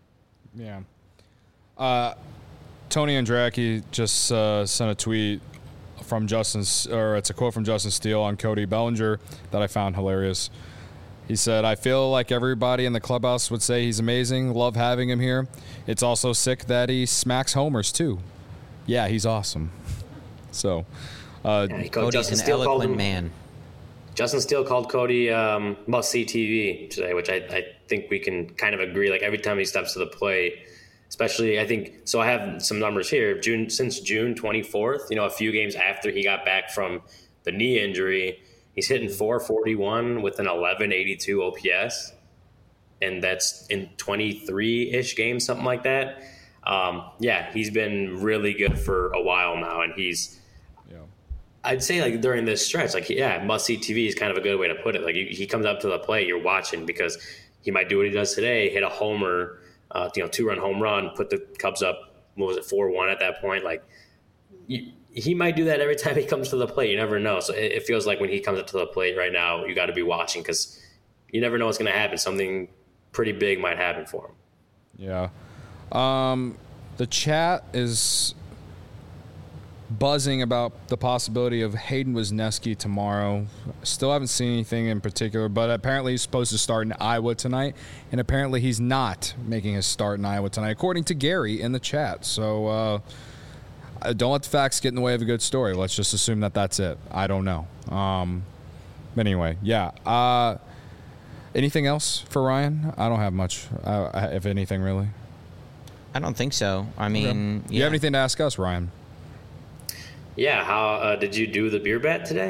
Yeah. Tony Andracki just sent a tweet from it's a quote from Justin Steele on Cody Bellinger that I found hilarious. He said, "I feel like everybody in the clubhouse would say he's amazing. Love having him here. It's also sick that he smacks homers too. Yeah, he's awesome." So, Cody's an eloquent man. Justin Steele called Cody must-see TV today, which I think we can kind of agree. Like, every time he steps to the plate, especially, I think, so I have some numbers here. Since June 24th, a few games after he got back from the knee injury, he's hitting .441 with an 1182 OPS, and that's in 23-ish games, something like that. He's been really good for a while now, and I'd say, like, during this stretch, like, must-see TV is kind of a good way to put it. Like, he comes up to the plate, you're watching, because he might do what he does today, hit a homer, 2-run home run, put the Cubs up, 4-1 at that point. Like, he might do that every time he comes to the plate. You never know. So it feels like when he comes up to the plate right now, you got to be watching, because you never know what's going to happen. Something pretty big might happen for him. Yeah. The chat is buzzing about the possibility of Hayden Wesneski tomorrow. Still haven't seen anything in particular, but apparently he's supposed to start in Iowa tonight, and apparently he's not making his start in Iowa tonight, according to Gary in the chat. So don't let the facts get in the way of a good story. Let's just assume that that's it. I don't know. But anyway, yeah. Anything else for Ryan? I don't have much, if anything, really. I don't think so. I mean, Do you have anything to ask us, Ryan? Yeah, how did you do the beer bet today?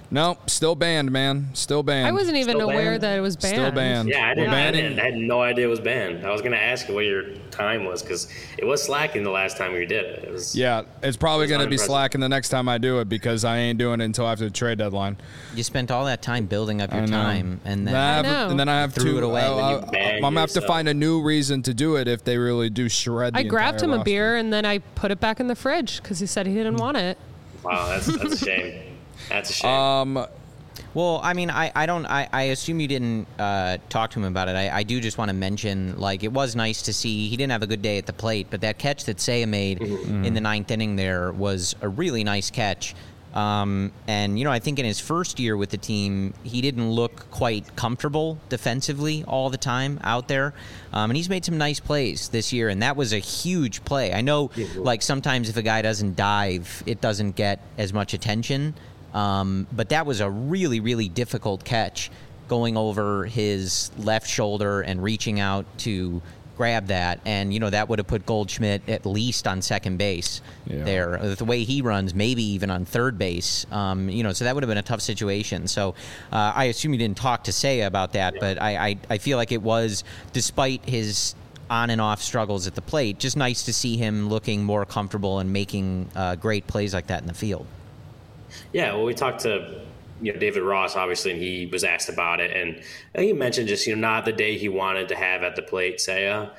Nope, still banned, man. Still banned. I wasn't even Still aware banned? that it was banned. Still banned. Yeah, I We're didn't. banning- I had no idea it was banned. I was gonna ask you what your time was because it was slacking the last time we did it. It was. Yeah, it's probably It's going to be unimpressive. slacking the next time I do it because I ain't doing it until after the trade deadline. You spent all that time building up your I know. time, and then I have- know. and then I have Threw to. it away. Then you I'm banned gonna have to yourself. find a new reason to do it if they really do shred. I the grabbed entire him a roster. beer and then I put it back in the fridge because he said he didn't want it. Wow, that's a shame. That's a shame. Well, I mean, I assume you didn't talk to him about it. I do just want to mention, like, it was nice to see he didn't have a good day at the plate, but that catch that Seiya made in the ninth inning there was a really nice catch. And, you know, I think in his first year with the team, he didn't look quite comfortable defensively all the time out there. And he's made some nice plays this year, and that was a huge play. I know, like, sometimes if a guy doesn't dive, it doesn't get as much attention. But that was a really, really difficult catch, going over his left shoulder and reaching out to grab that. And, you know, that would have put Goldschmidt at least on second base there. The way he runs, maybe even on third base. You know, so that would have been a tough situation. So I assume you didn't talk to Seiya about that, but I feel like it was, despite his on and off struggles at the plate, just nice to see him looking more comfortable and making great plays like that in the field. Yeah, well, we talked to David Ross, obviously, and he was asked about it, and he mentioned just not the day he wanted to have at the plate, Seiya,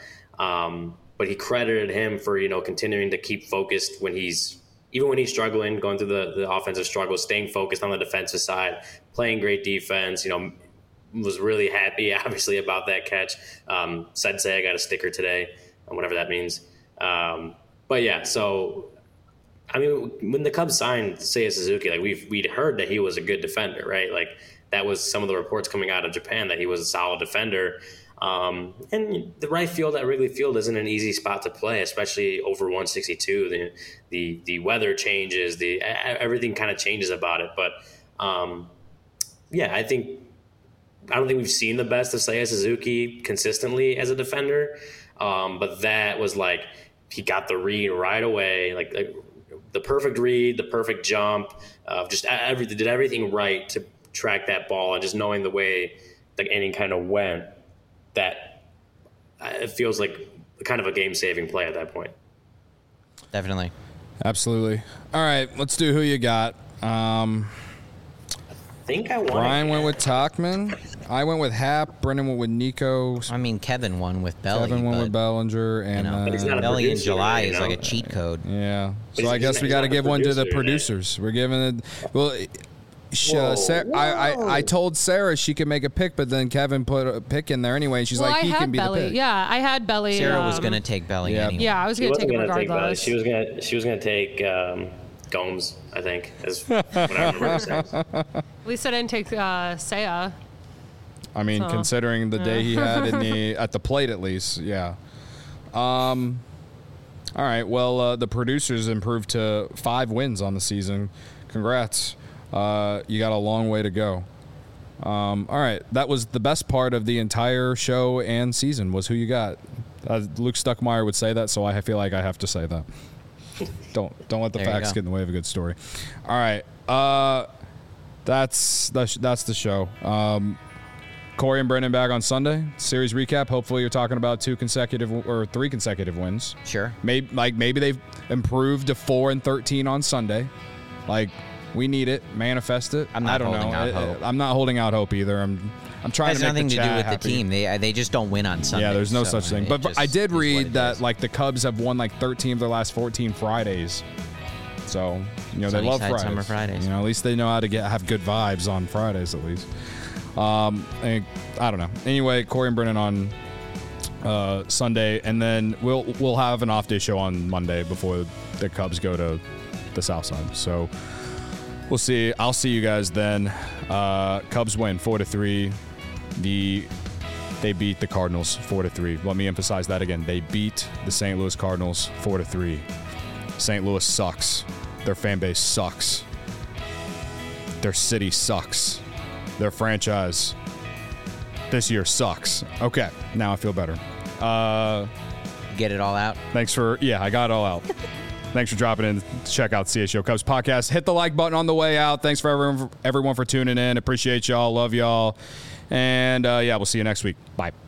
but he credited him for continuing to keep focused when he's struggling, going through the offensive struggles, staying focused on the defensive side, playing great defense. Was really happy, obviously, about that catch. Said Seiya got a sticker today, whatever that means. But yeah, so. I mean, when the Cubs signed Seiya Suzuki, like we'd heard that he was a good defender, right? Like that was some of the reports coming out of Japan that he was a solid defender. And the right field at Wrigley Field isn't an easy spot to play, especially over 162. The weather changes, everything kind of changes about it. But yeah, I don't think we've seen the best of Seiya Suzuki consistently as a defender. But that was like he got the read right away, like the perfect read, the perfect jump, just did everything right to track that ball, and just knowing the way the inning kind of went, that it feels like kind of a game-saving play at that point. Definitely. Absolutely. All right, let's do who you got. I think I won. Brian went with Tachman. I went with Happ. Brendan went with Nico. I mean, Kevin won with Belly. Kevin went but, with Bellinger, and but he's not a Belly in producer, July you is know? like a cheat code. yeah. So He's- I guess he's we not got to the give one to the producer, producers. We're giving it. Well, Whoa, I told Sarah she could make a pick, but then Kevin put a pick in there anyway, and she's Well, like, I he had can be Belly. the pick. Yeah, I had Belly. Sarah was going to take Belly yeah. anyway. Yeah, I was She going to take wasn't him gonna take Belly. regardless. She was gonna take Gomes, I think, is what I remember her saying. At least I didn't take Seiya. I mean, So, considering the day he had at the plate, at least, yeah. All right. Well, the producers improved to 5 wins on the season. Congrats. You got a long way to go. All right. That was the best part of the entire show and season was who you got. Luke Stuckmeyer would say that, so I feel like I have to say that. Don't let the There you facts go. get in the way of a good story. All right. That's the show. Corey and Brendan back on Sunday. Series recap. Hopefully, you're talking about 2 consecutive or 3 consecutive wins. Sure. Maybe they've improved to 4-13 on Sunday. Like we need it. Manifest it. I'm not I don't holding know. out hope. I'm not holding out hope either. I'm trying Has to make nothing the to do chat with happy. the team. They just don't win on Sunday. Yeah, there's no so such thing. it But just I did is what read it that is. like the Cubs have won like 13 of their last 14 Fridays. So they Sunny love side, Fridays. summer Fridays. At least they know how to have good vibes on Fridays at least. And I don't know. Anyway, Corey and Brennan on Sunday, and then we'll have an off day show on Monday before the Cubs go to the South Side. So we'll see. I'll see you guys then. Cubs win 4-3. They beat the Cardinals 4-3. Let me emphasize that again. They beat the St. Louis Cardinals 4-3. St. Louis sucks. Their fan base sucks. Their city sucks. Their franchise this year sucks. Okay, now I feel better. Get it all out. Thanks for, I got it all out. Thanks for dropping in to check out the CHGO Cubs podcast. Hit the like button on the way out. Thanks for everyone for tuning in. Appreciate y'all. Love y'all. And, we'll see you next week. Bye.